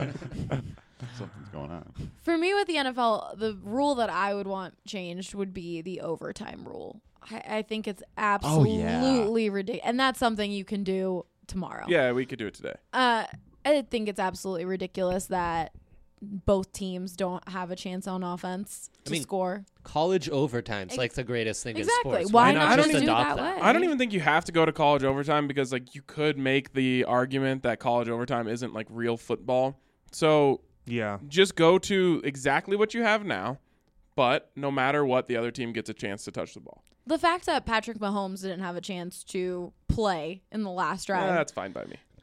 Something's going on. For me with the NFL, the rule that I would want changed would be the overtime rule. I think it's absolutely ridiculous. And that's something you can do tomorrow. Yeah, we could do it today. I think it's absolutely ridiculous that both teams don't have a chance on offense to score. College overtime's like the greatest thing in sports. Why not just do adopt that way? I don't even think you have to go to college overtime because like you could make the argument that college overtime isn't like real football. So just go to exactly what you have now, but no matter what, the other team gets a chance to touch the ball. The fact that Patrick Mahomes didn't have a chance to play in the last drive. That's fine by me.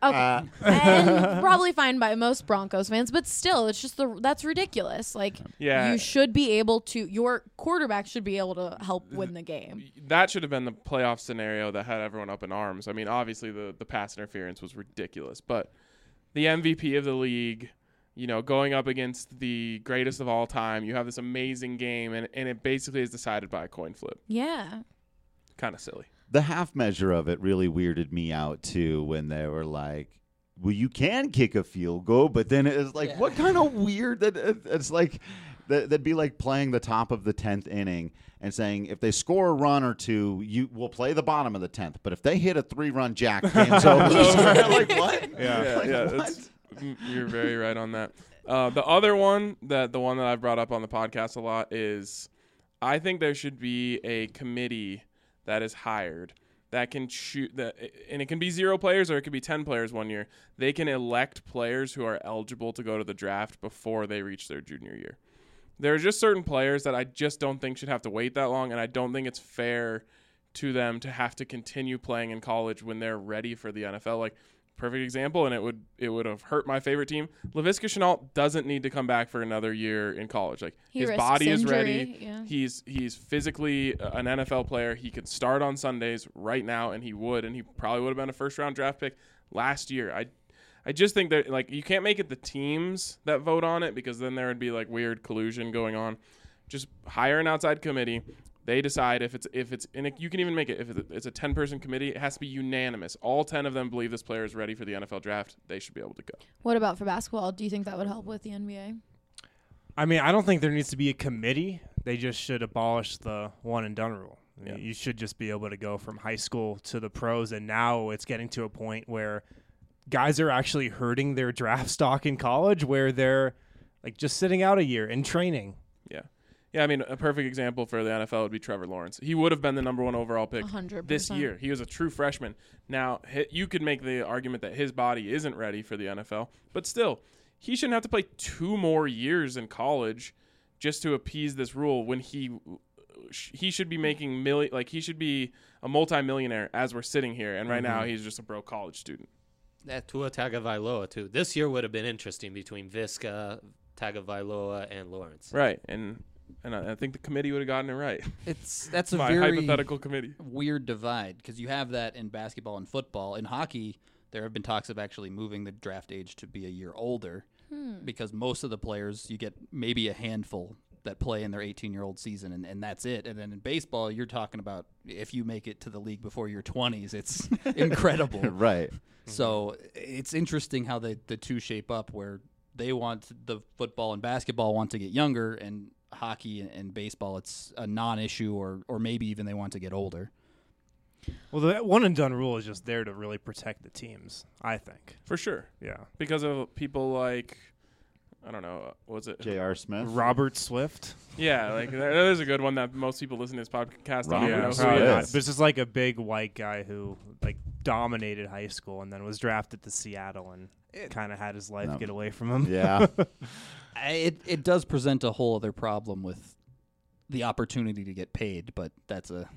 Okay. And probably fine by most Broncos fans, but still, it's just that's ridiculous. Like, Yeah. you should be able to, your quarterback should be able to help win the game. That should have been the playoff scenario that had everyone up in arms. I mean, obviously the pass interference was ridiculous, but the MVP of the league, you know, going up against the greatest of all time, you have this amazing game, and it basically is decided by a coin flip. Yeah. Kind of silly. The half measure of it really weirded me out too when they were like, well, you can kick a field goal, but then it's like, what kind of weird that it's like that'd be like playing the top of the 10th inning and saying if they score a run or two, you will play the bottom of the 10th, but if they hit a 3-run jack, game's over. Like what? What? You're very right on that. The other one, the one that I've brought up on the podcast a lot, is I think there should be a committee that is hired that can shoot that, and it can be 0 players or it could be 10 players one year. They can elect players who are eligible to go to the draft before they reach their junior year. There are just certain players that I just don't think should have to wait that long, and I don't think it's fair to them to have to continue playing in college when they're ready for the NFL. Like, perfect example, and it would have hurt my favorite team. Laviska Shenault doesn't need to come back for another year in college. Like, his body is ready. Yeah. He's physically an NFL player. He could start on Sundays right now, and he probably would have been a first-round draft pick last year. I just think that, like, you can't make it the teams that vote on it, because then there would be like weird collusion going on. Just hire an outside committee. They decide if it's and you can even make it if it's a 10-person committee. It has to be unanimous. All 10 of them believe this player is ready for the NFL draft. They should be able to go. What about for basketball? Do you think that would help with the NBA? I mean, I don't think there needs to be a committee. They just should abolish the one and done rule. Yeah. You should just be able to go from high school to the pros, and now it's getting to a point where guys are actually hurting their draft stock in college, where they're like just sitting out a year in training. Yeah, I mean, a perfect example for the NFL would be Trevor Lawrence. He would have been the number 1 overall pick 100%. this year. He was a true freshman. Now, you could make the argument that his body isn't ready for the NFL, but still, he shouldn't have to play 2 more years in college just to appease this rule when he should be making he should be a multimillionaire as we're sitting here, and right now he's just a broke college student. That Tua Tagovailoa too. This year would have been interesting between Viska, Tagovailoa, and Lawrence. Right, and I think the committee would have gotten it right. That's a My very hypothetical committee. weird divide, because you have that in basketball and football. In hockey, there have been talks of actually moving the draft age to be a year older, because most of the players, you get maybe a handful that play in their 18-year-old season, and that's it. And then in baseball, you're talking about if you make it to the league before your 20s, it's incredible. Right. So it's interesting how the two shape up, where they want the football and basketball want to get younger, and hockey and baseball, it's a non-issue, or maybe even they want to get older. Well, the one and done rule is just there to really protect the teams, I think. For sure. Yeah. Because of people like, I don't know, was it J.R. Smith? Robert Swift. Yeah, like that is a good one that most people listen to this podcast don't even know who probably he not. is. But it's just like a big white guy who like dominated high school and then was drafted to Seattle and kind of had his life get away from him. Yeah. It does present a whole other problem with the opportunity to get paid, but that's a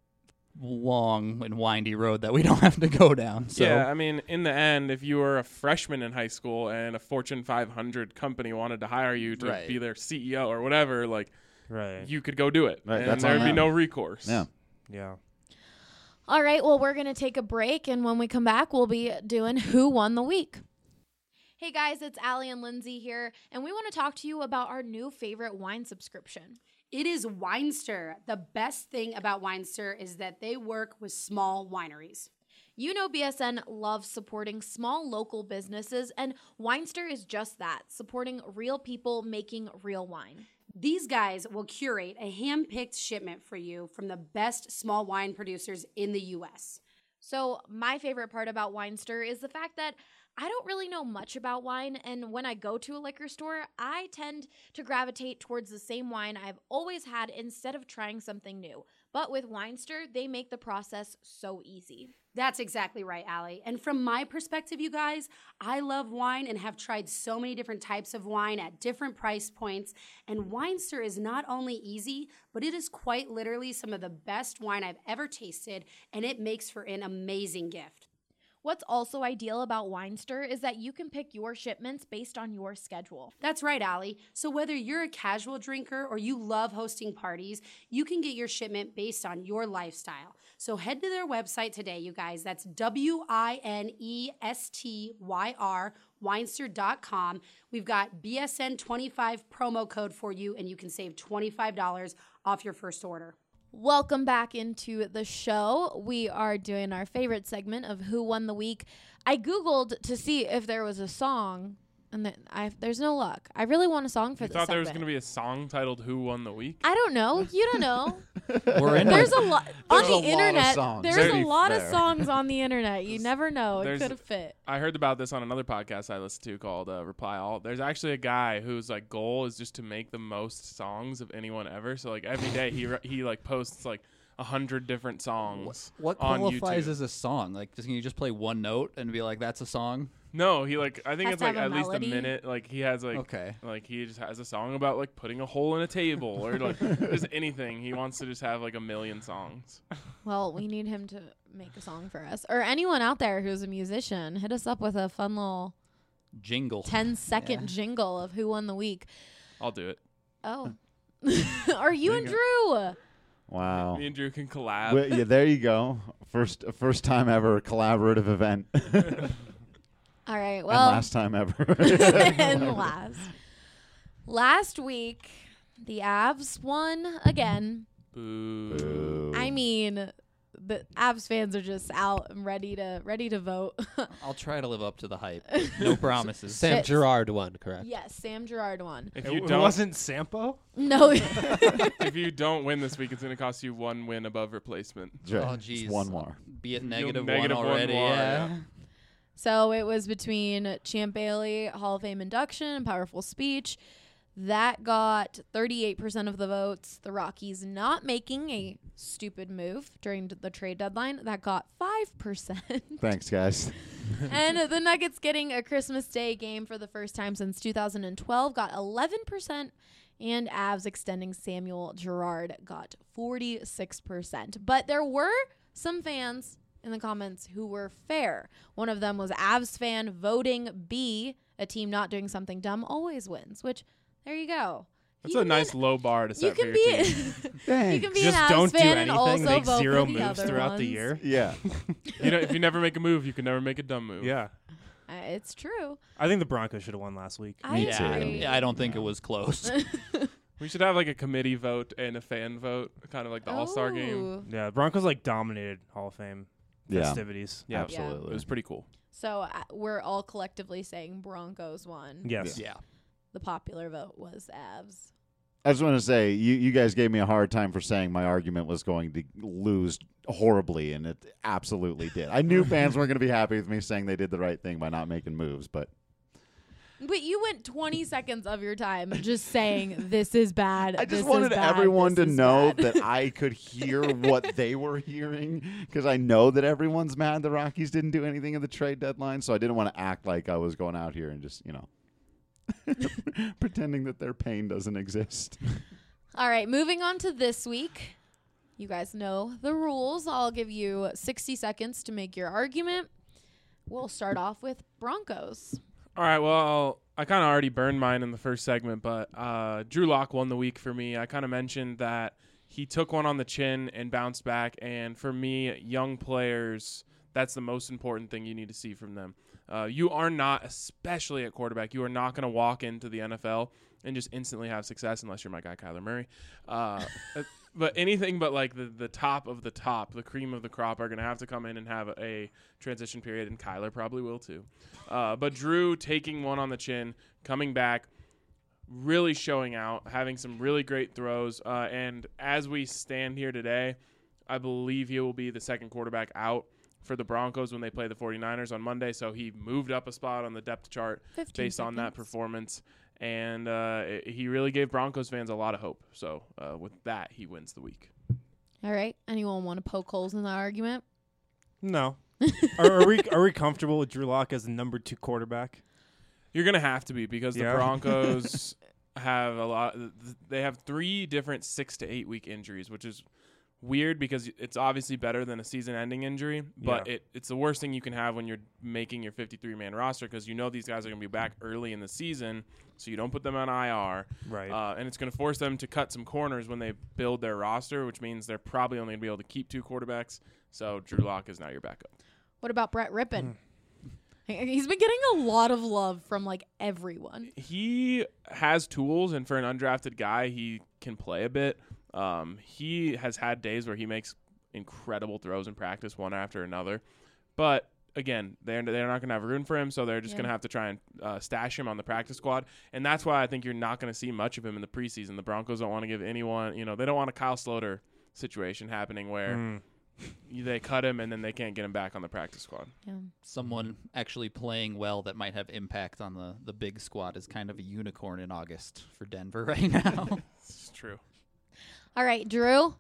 long and windy road that we don't have to go down. So. Yeah, I mean, in the end, if you were a freshman in high school and a Fortune 500 company wanted to hire you to be their CEO or whatever, like, you could go do it, and there would be no recourse. Yeah. Yeah. All right, well, we're going to take a break, and when we come back, we'll be doing Who Won the Week. Hey guys, it's Allie and Lindsay here, and we want to talk to you about our new favorite wine subscription. It is Winester. The best thing about Winester is that they work with small wineries. You know BSN loves supporting small local businesses, and Winester is just that, supporting real people making real wine. These guys will curate a hand-picked shipment for you from the best small wine producers in the U.S. So my favorite part about Winester is the fact that I don't really know much about wine, and when I go to a liquor store, I tend to gravitate towards the same wine I've always had instead of trying something new. But with Winester, they make the process so easy. That's exactly right, Allie. And from my perspective, you guys, I love wine and have tried so many different types of wine at different price points. And Winester is not only easy, but it is quite literally some of the best wine I've ever tasted, and it makes for an amazing gift. What's also ideal about Weinster is that you can pick your shipments based on your schedule. That's right, Allie. So whether you're a casual drinker or you love hosting parties, you can get your shipment based on your lifestyle. So head to their website today, you guys. That's WINESTYR, Weinster.com. We've got BSN25 promo code for you, and you can save $25 off your first order. Welcome back into the show. We are doing our favorite segment of Who Won the Week. I Googled to see if there was a song, and there's no luck. I really want a song for You this thought there was segment. going to be a song titled "Who Won the Week"? I don't know. You don't know. We're in There's a lot on There's a the lot of internet. songs. There's To a be lot of fair. songs on the internet. You never know. It There's- could have fit. I heard about this on another podcast I listened to called Reply All. There's actually a guy whose like goal is just to make the most songs of anyone ever. So like every day he like posts like 100 different songs. What on qualifies YouTube. as a song? Like, can you just play one note and be like, "That's a song"? No, he like I think Has it's to like have a at least a melody? minute. Like he has like Okay. like he just has a song about like putting a hole in a table or like just anything. He wants to just have like a million songs. Well, we need him to make a song for us. Or anyone out there who's a musician, hit us up with a fun little Jingle. 10-second jingle of Who Won the Week. I'll do it. Oh. Are you and Drew? Wow. Me and Drew can collab. Well, yeah, there you go. First time ever collaborative event. All right. And Well, last time ever. and last week, the Avs won again. Boo. I mean, the Avs fans are just out and ready to vote. I'll try to live up to the hype. No promises. Sam Shit. Girard won, correct? Yes, Sam Girard won. If It, you it don't wasn't Sampo? No. if you don't win this week, it's going to cost you 1 win above replacement. Right. Oh, Just jeez. one more. Be it You'll negative negative one one already. more, Yeah. yeah. So it was between Champ Bailey Hall of Fame induction and powerful speech. That got 38% of the votes. The Rockies not making a stupid move during the trade deadline. That got 5%. Thanks, guys. And the Nuggets getting a Christmas Day game for the first time since 2012 got 11%. And Avs extending Samuel Girard got 46%. But there were some fans in the comments who were fair. One of them was Avs fan voting B, a team not doing something dumb always wins, which there you go. That's You a can nice be low bar to an- you set for can your be team. you can be Just an Avs don't do fan and anything. also Make vote zero for the moves other throughout the ones. year. Yeah. If you never make a move, you can never make a dumb move. Yeah. It's true. I think the Broncos should have won last week. I Me too. agree. I don't think it was close. We should have like a committee vote and a fan vote, kind of like the All-Star game. Ooh. Yeah, the Broncos like dominated Hall of Fame Yeah. festivities. Yeah, Absolutely. it was pretty cool. So we're all collectively saying Broncos won. Yes. Yeah. The popular vote was Avs. I just want to say, you guys gave me a hard time for saying my argument was going to lose horribly, and it absolutely did. I knew fans weren't going to be happy with me saying they did the right thing by not making moves, but But you went 20 seconds of your time just saying this is bad. I this just is wanted bad, everyone this to is know bad. that I could hear what they were hearing, because I know that everyone's mad the Rockies didn't do anything at the trade deadline, so I didn't want to act like I was going out here and just, pretending that their pain doesn't exist. All right, moving on to this week. You guys know the rules. I'll give you 60 seconds to make your argument. We'll start off with Broncos. All right, well, I kind of already burned mine in the first segment, but Drew Lock won the week for me. I kind of mentioned that he took one on the chin and bounced back, and for me, young players, that's the most important thing you need to see from them. You are not, especially at quarterback, you are not going to walk into the NFL and just instantly have success unless you're my guy Kyler Murray. But anything but like the top of the top, the cream of the crop, are going to have to come in and have a transition period, and Kyler probably will too. But Drew taking one on the chin, coming back, really showing out, having some really great throws. And as we stand here today, I believe he will be the second quarterback out for the Broncos when they play the 49ers on Monday. So he moved up a spot on the depth chart 15 based on that seconds. performance. And he really gave Broncos fans a lot of hope. So with that, he wins the week. All right. Anyone want to poke holes in that argument? No. are we comfortable with Drew Lock as the number 2 quarterback? You're going to have to be, because the Yeah. Broncos have a lot. They have 3 different 6 to 8 week injuries, which is weird because it's obviously better than a season-ending injury, but it's the worst thing you can have when you're making your 53-man roster because you know these guys are going to be back early in the season, so you don't put them on IR. Right. And it's going to force them to cut some corners when they build their roster, which means they're probably only going to be able to keep 2 quarterbacks. So Drew Lock is now your backup. What about Brett Rippon? He's been getting a lot of love from like everyone. He has tools, and for an undrafted guy, he can play a bit. He has had days where he makes incredible throws in practice, one after another. But again, they're not going to have room for him, so they're just going to have to try and stash him on the practice squad. And that's why I think you're not going to see much of him in the preseason. The Broncos don't want to give anyone, they don't want a Kyle Sloter situation happening where they cut him and then they can't get him back on the practice squad. Yeah. Someone actually playing well that might have impact on the big squad is kind of a unicorn in August for Denver right now. It's true. All right, Drew.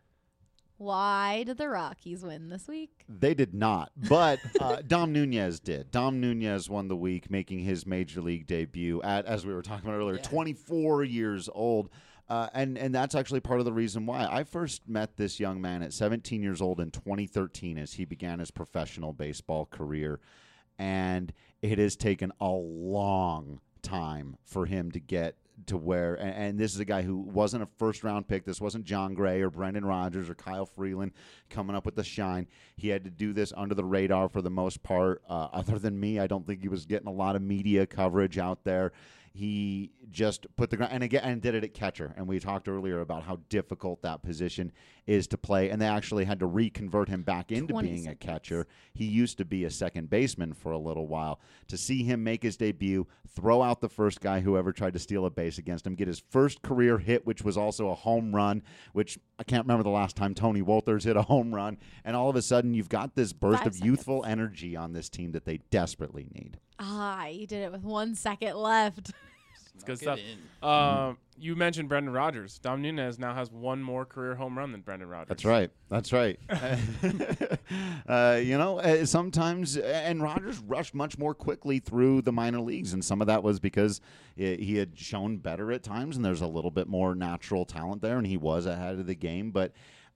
Why did the Rockies win this week? They did not, but Dom Nunez did. Dom Nunez won the week, making his major league debut at, as we were talking about earlier, 24 years old. And that's actually part of the reason why. I first met this young man at 17 years old in 2013 as he began his professional baseball career. And it has taken a long time for him to get to where, and this is a guy who wasn't a first-round pick. This wasn't John Gray or Brendan Rodgers or Kyle Freeland coming up with the shine. He had to do this under the radar for the most part. Other than me, I don't think he was getting a lot of media coverage out there. He just put the ground and did it at catcher. And we talked earlier about how difficult that position is to play. And they actually had to reconvert him back into being a catcher. He used to be a second baseman for a little while. To see him make his debut, throw out the first guy who ever tried to steal a base against him, get his first career hit, which was also a home run, which I can't remember the last time Tony Wolters hit a home run. And all of a sudden, you've got this burst of youthful energy on this team that they desperately need. He did it with 1 second left. It's good stuff. You mentioned Brendan Rodgers. Dom Nunez now has one more career home run than Brendan Rodgers. That's right. Sometimes, and Rodgers rushed much more quickly through the minor leagues, and some of that was because he had shown better at times, and there's a little bit more natural talent there, and he was ahead of the game, but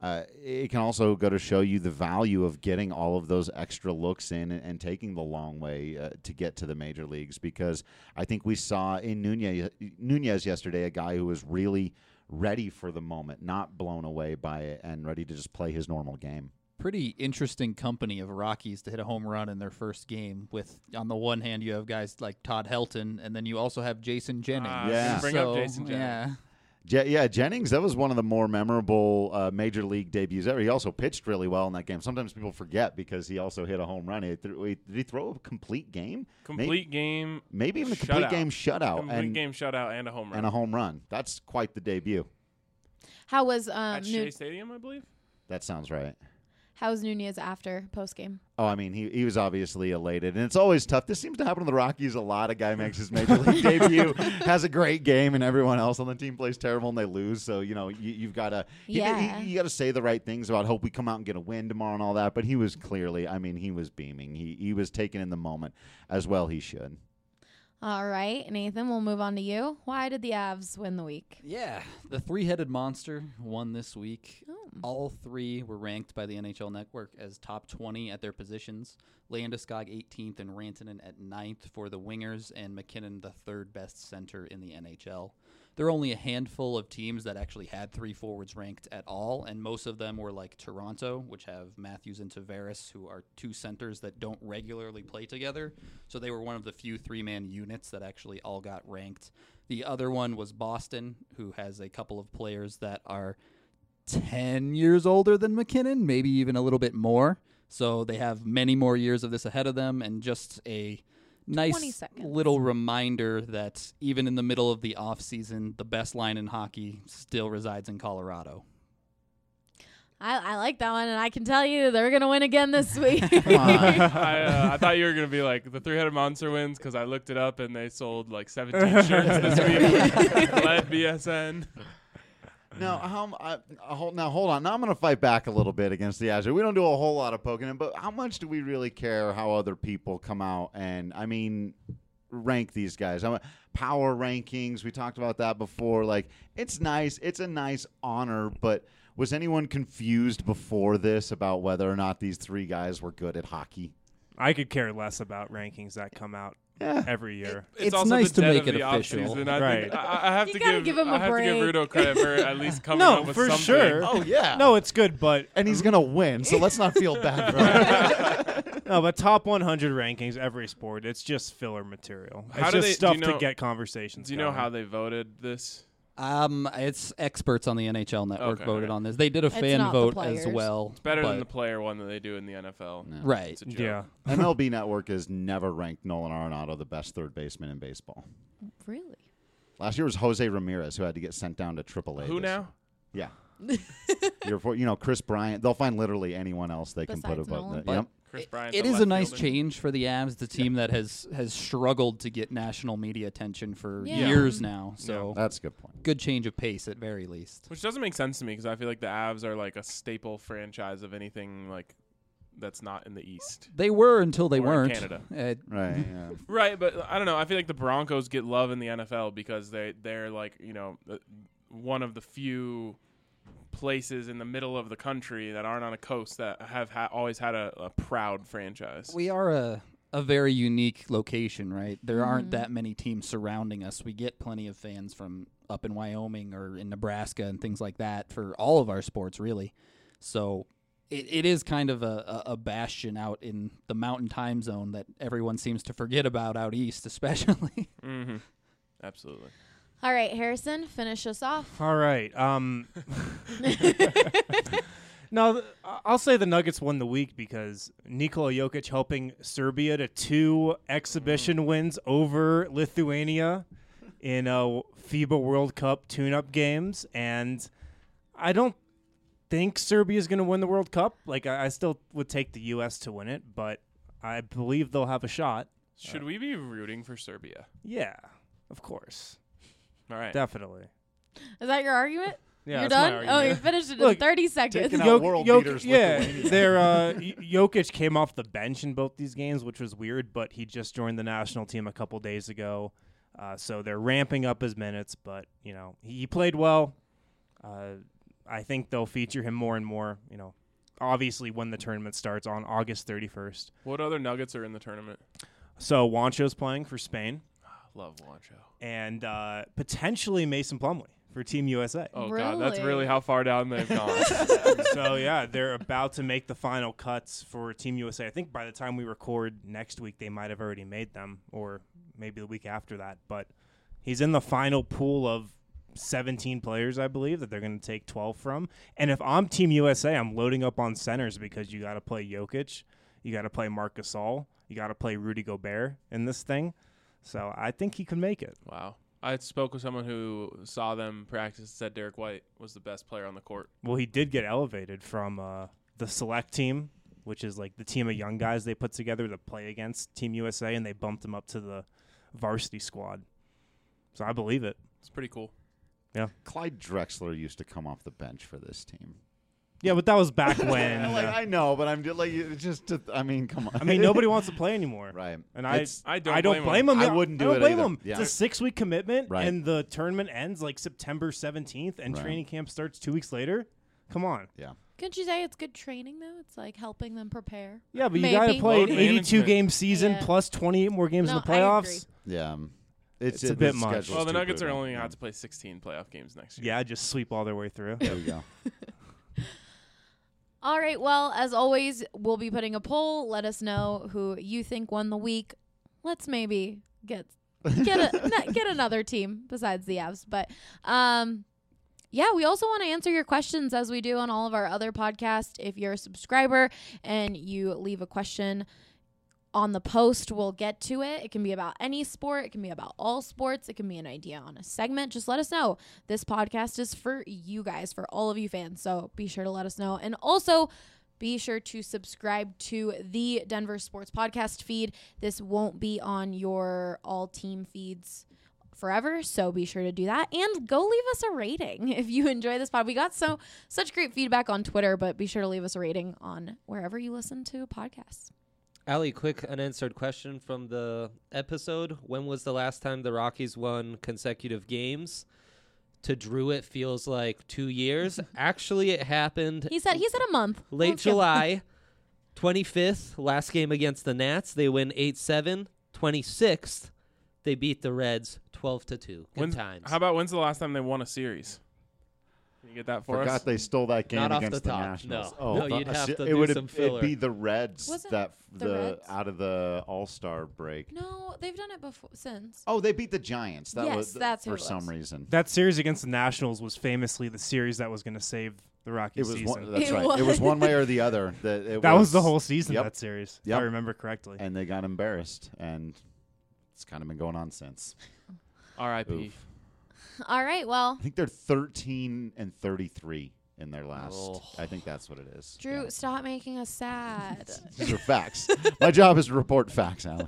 it can also go to show you the value of getting all of those extra looks in and taking the long way to get to the major leagues, because I think we saw in Nunez yesterday a guy who was really ready for the moment, not blown away by it, and ready to just play his normal game. Pretty interesting company of Rockies to hit a home run in their first game. With, on the one hand, you have guys like Todd Helton, and then you also have Jason Jennings. Bring up Jason Jennings. Jennings, that was one of the more memorable major league debuts ever. He also pitched really well in that game. Sometimes people forget because he also hit a home run. Did he throw a complete game? Game. Maybe even a complete game shutout. Game shutout and a home run. And a home run. That's quite the debut. How was at Shea Stadium, I believe? That sounds right. How was Nunez after post-game? Oh, I mean, he was obviously elated. And it's always tough. This seems to happen to the Rockies a lot. A guy makes his major league debut, has a great game, and everyone else on the team plays terrible and they lose. So, you've got to you got to say the right things about hope we come out and get a win tomorrow and all that. But he was clearly, he was beaming. He was taking in the moment as well he should. All right, Nathan, we'll move on to you. Why did the Avs win the week? Yeah, the three-headed monster won this week. Oh. All three were ranked by the NHL Network as top 20 at their positions. Landeskog 18th and Rantanen at 9th for the wingers, and McKinnon the third best center in the NHL. There are only a handful of teams that actually had three forwards ranked at all, and most of them were like Toronto, which have Matthews and Tavares, who are two centers that don't regularly play together. So they were one of the few three-man units that actually all got ranked. The other one was Boston, who has a couple of players that are 10 years older than McKinnon, maybe even a little bit more. So they have many more years of this ahead of them, and just a nice little reminder that even in the middle of the offseason, the best line in hockey still resides in Colorado. I like that one, and I can tell you they're going to win again this week. I thought you were going to be like, the three-headed monster wins, because I looked it up, and they sold like 17 shirts this week. Led BSN. Now, hold on. Now I'm going to fight back a little bit against the Azure. We don't do a whole lot of poking in, but how much do we really care how other people come out and, rank these guys? Power rankings, we talked about that before. Like, it's nice. It's a nice honor, but Was anyone confused before this about whether or not these three guys were good at hockey? I could care less about rankings that come out every year. It's also nice to the make dead it of the official. offseason. I Right. think I have You to gotta give him a I have to give break. Rudo credit for at least coming No, up with for something. sure. Oh, yeah. No, it's good, but And he's going to win, so let's not feel bad for him. no, but top 100 rankings, every sport, it's just filler material. How It's do just they- stuff do you know- to get conversations Do you know going. how they voted this? It's experts on the NHL Network Okay, voted okay. on this. They did a It's fan not the vote players. as well. It's better than but- the player one that they do in the NFL. No. Right. It's a joke. Yeah. MLB Network has never ranked Nolan Arenado the best third baseman in baseball. Really? Last year was Jose Ramirez, who had to get sent down to AAA. Who this- now? Yeah. Chris Bryant. They'll find literally anyone else they can put Besides above Nolan. that. Yep. Chris Bryant. It the is a left nice fielder. change for the Avs, the team that has struggled to get national media attention for Yeah. years now. So That's a good point. good change of pace at very least. Which doesn't make sense to me because I feel like the Avs are like a staple franchise of anything like that's not in the East. They were until they Or in weren't. Canada. Right. Yeah. Right, but I don't know. I feel like the Broncos get love in the NFL because they're like, one of the few places in the middle of the country that aren't on a coast that have always had a proud franchise. We are a very unique location, right? There Mm-hmm. aren't that many teams surrounding us. We get plenty of fans from up in Wyoming or in Nebraska and things like that for all of our sports, really. So it is kind of a bastion out in the mountain time zone that everyone seems to forget about out east, especially. Mm-hmm. Absolutely. All right, Harrison, finish us off. All right. No, I'll say the Nuggets won the week because Nikola Jokic helping Serbia to 2 exhibition wins over Lithuania in FIBA World Cup tune-up games, and I don't think Serbia is going to win the World Cup. Like, I still would take the U.S. to win it, but I believe they'll have a shot. Should we be rooting for Serbia? Yeah, of course. All right. Definitely. Is that your argument? Yeah, You're that's my done? argument. Oh, you finished it Look, in 30 seconds. taking out world beaters Lithuania. Jokic came off the bench in both these games, which was weird, but he just joined the national team a couple days ago. So they're ramping up his minutes, but, he played well. I think they'll feature him more and more, obviously when the tournament starts on August 31st. What other Nuggets are in the tournament? So Juancho's playing for Spain, Love Juancho. and potentially Mason Plumlee for Team USA. Oh, God. That's Really? really how far down they've gone. So, yeah, they're about to make the final cuts for Team USA. I think by the time we record next week, they might have already made them, or maybe the week after that. But he's in the final pool of 17 players, I believe, that they're going to take 12 from. And if I'm Team USA, I'm loading up on centers because you got to play Jokic, you got to play Marc Gasol, you got to play Rudy Gobert in this thing. So I think he can make it. Wow. I spoke with someone who saw them practice and said Derek White was the best player on the court. Well, he did get elevated from the select team, which is like the team of young guys they put together to play against Team USA, and they bumped him up to the varsity squad. So I believe it. It's pretty cool. Clyde Drexler used to come off the bench for this team. Yeah, but that was back when. I know, but I'm just like, come on. I mean, nobody wants to play anymore. Right. And It's- I I don't don't blame blame him. I Yeah, wouldn't do I don't it blame either. him. Yeah. It's a 6-week commitment, Right. and the tournament ends like September 17th, and Right. training camp starts 2 weeks later. Come on. Yeah. Couldn't you say it's good training, though? It's like helping them prepare. Yeah, but you got to Maybe. play Load an management. 82-game season Yeah. plus 28 more games No, in the I agree. playoffs. Yeah. It's a bit the much. schedule's Well, the too Nuggets are brutal. only Yeah. have to play 16 playoff games next year. Yeah, just sweep all their way through. There we go. All right. Well, as always, we'll be putting a poll. Let us know who you think won the week. Let's maybe get another team besides the Avs. But yeah, we also want to answer your questions as we do on all of our other podcasts. If you're a subscriber and you leave a question on the post, we'll get to it. It can be about any sport. It can be about all sports. It can be an idea on a segment. Just let us know. This podcast is for you guys, for all of you fans. So be sure to let us know. And also be sure to subscribe to the Denver Sports Podcast feed. This won't be on your all team feeds forever, so be sure to do that. And go leave us a rating if you enjoy this pod. We got such great feedback on Twitter, but be sure to leave us a rating on wherever you listen to podcasts. Allie, quick unanswered question from the episode. When was the last time the Rockies won consecutive games? To Drew, it feels like 2 years. Actually, it happened. He said a month. Late Let's go. July, 25th, last game against the Nats. They win 8-7. 26th, they beat the Reds 12-2. Good times. How about when's the last time they won a series? Can you get that for us? Forgot they stole that game Not off against the the top, Nationals. no. No, you'd have to it do would some filler. It'd be the Reds Wasn't that the Reds? out of the All-Star break. No, they've done it before since. Oh, they beat the Giants. That Yes, was that's who for it some was. reason. That series against the Nationals was famously the series that was going to save the Rockies It was season. one, that's It right. It was one way or the other. That was the whole season, Yep. that series, if Yep. I remember correctly. And they got embarrassed, and it's kind of been going on since. R.I.P. Oof. All right, well, I think they're 13-33 in their last. Oh. I think that's what it is. Drew, Yeah. stop making us sad. These are facts. My job is to report facts, Allie.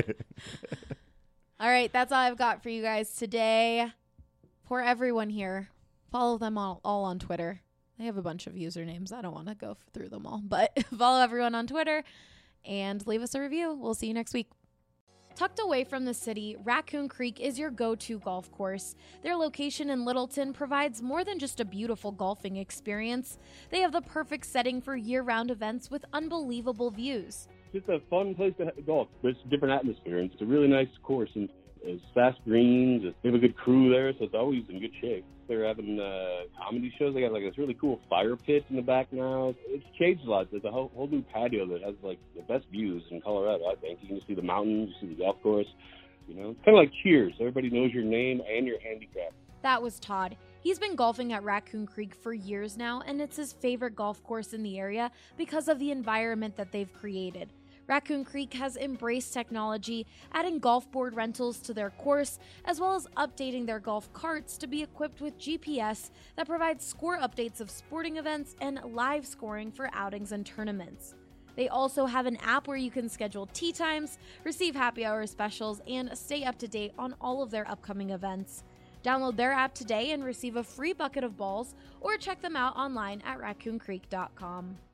All right, that's all I've got for you guys today. For everyone here, follow them all on Twitter. They have a bunch of usernames. I don't want to go through them all, but follow everyone on Twitter and leave us a review. We'll see you next week. Tucked away from the city, Raccoon Creek is your go-to golf course. Their location in Littleton provides more than just a beautiful golfing experience. They have the perfect setting for year-round events with unbelievable views. It's just a fun place to golf. There's a different atmosphere, and it's a really nice course, and it's fast greens. They have a good crew there, so it's always in good shape. They're having comedy shows. They got like this really cool fire pit in the back now. It's changed a lot. There's a whole new patio that has like the best views in Colorado, I think. You can see the mountains, you see the golf course. You know, it's kind of like Cheers. Everybody knows your name and your handicap. That was Todd. He's been golfing at Raccoon Creek for years now, and it's his favorite golf course in the area because of the environment that they've created. Raccoon Creek has embraced technology, adding golf board rentals to their course, as well as updating their golf carts to be equipped with GPS that provides score updates of sporting events and live scoring for outings and tournaments. They also have an app where you can schedule tee times, receive happy hour specials, and stay up to date on all of their upcoming events. Download their app today and receive a free bucket of balls, or check them out online at raccooncreek.com.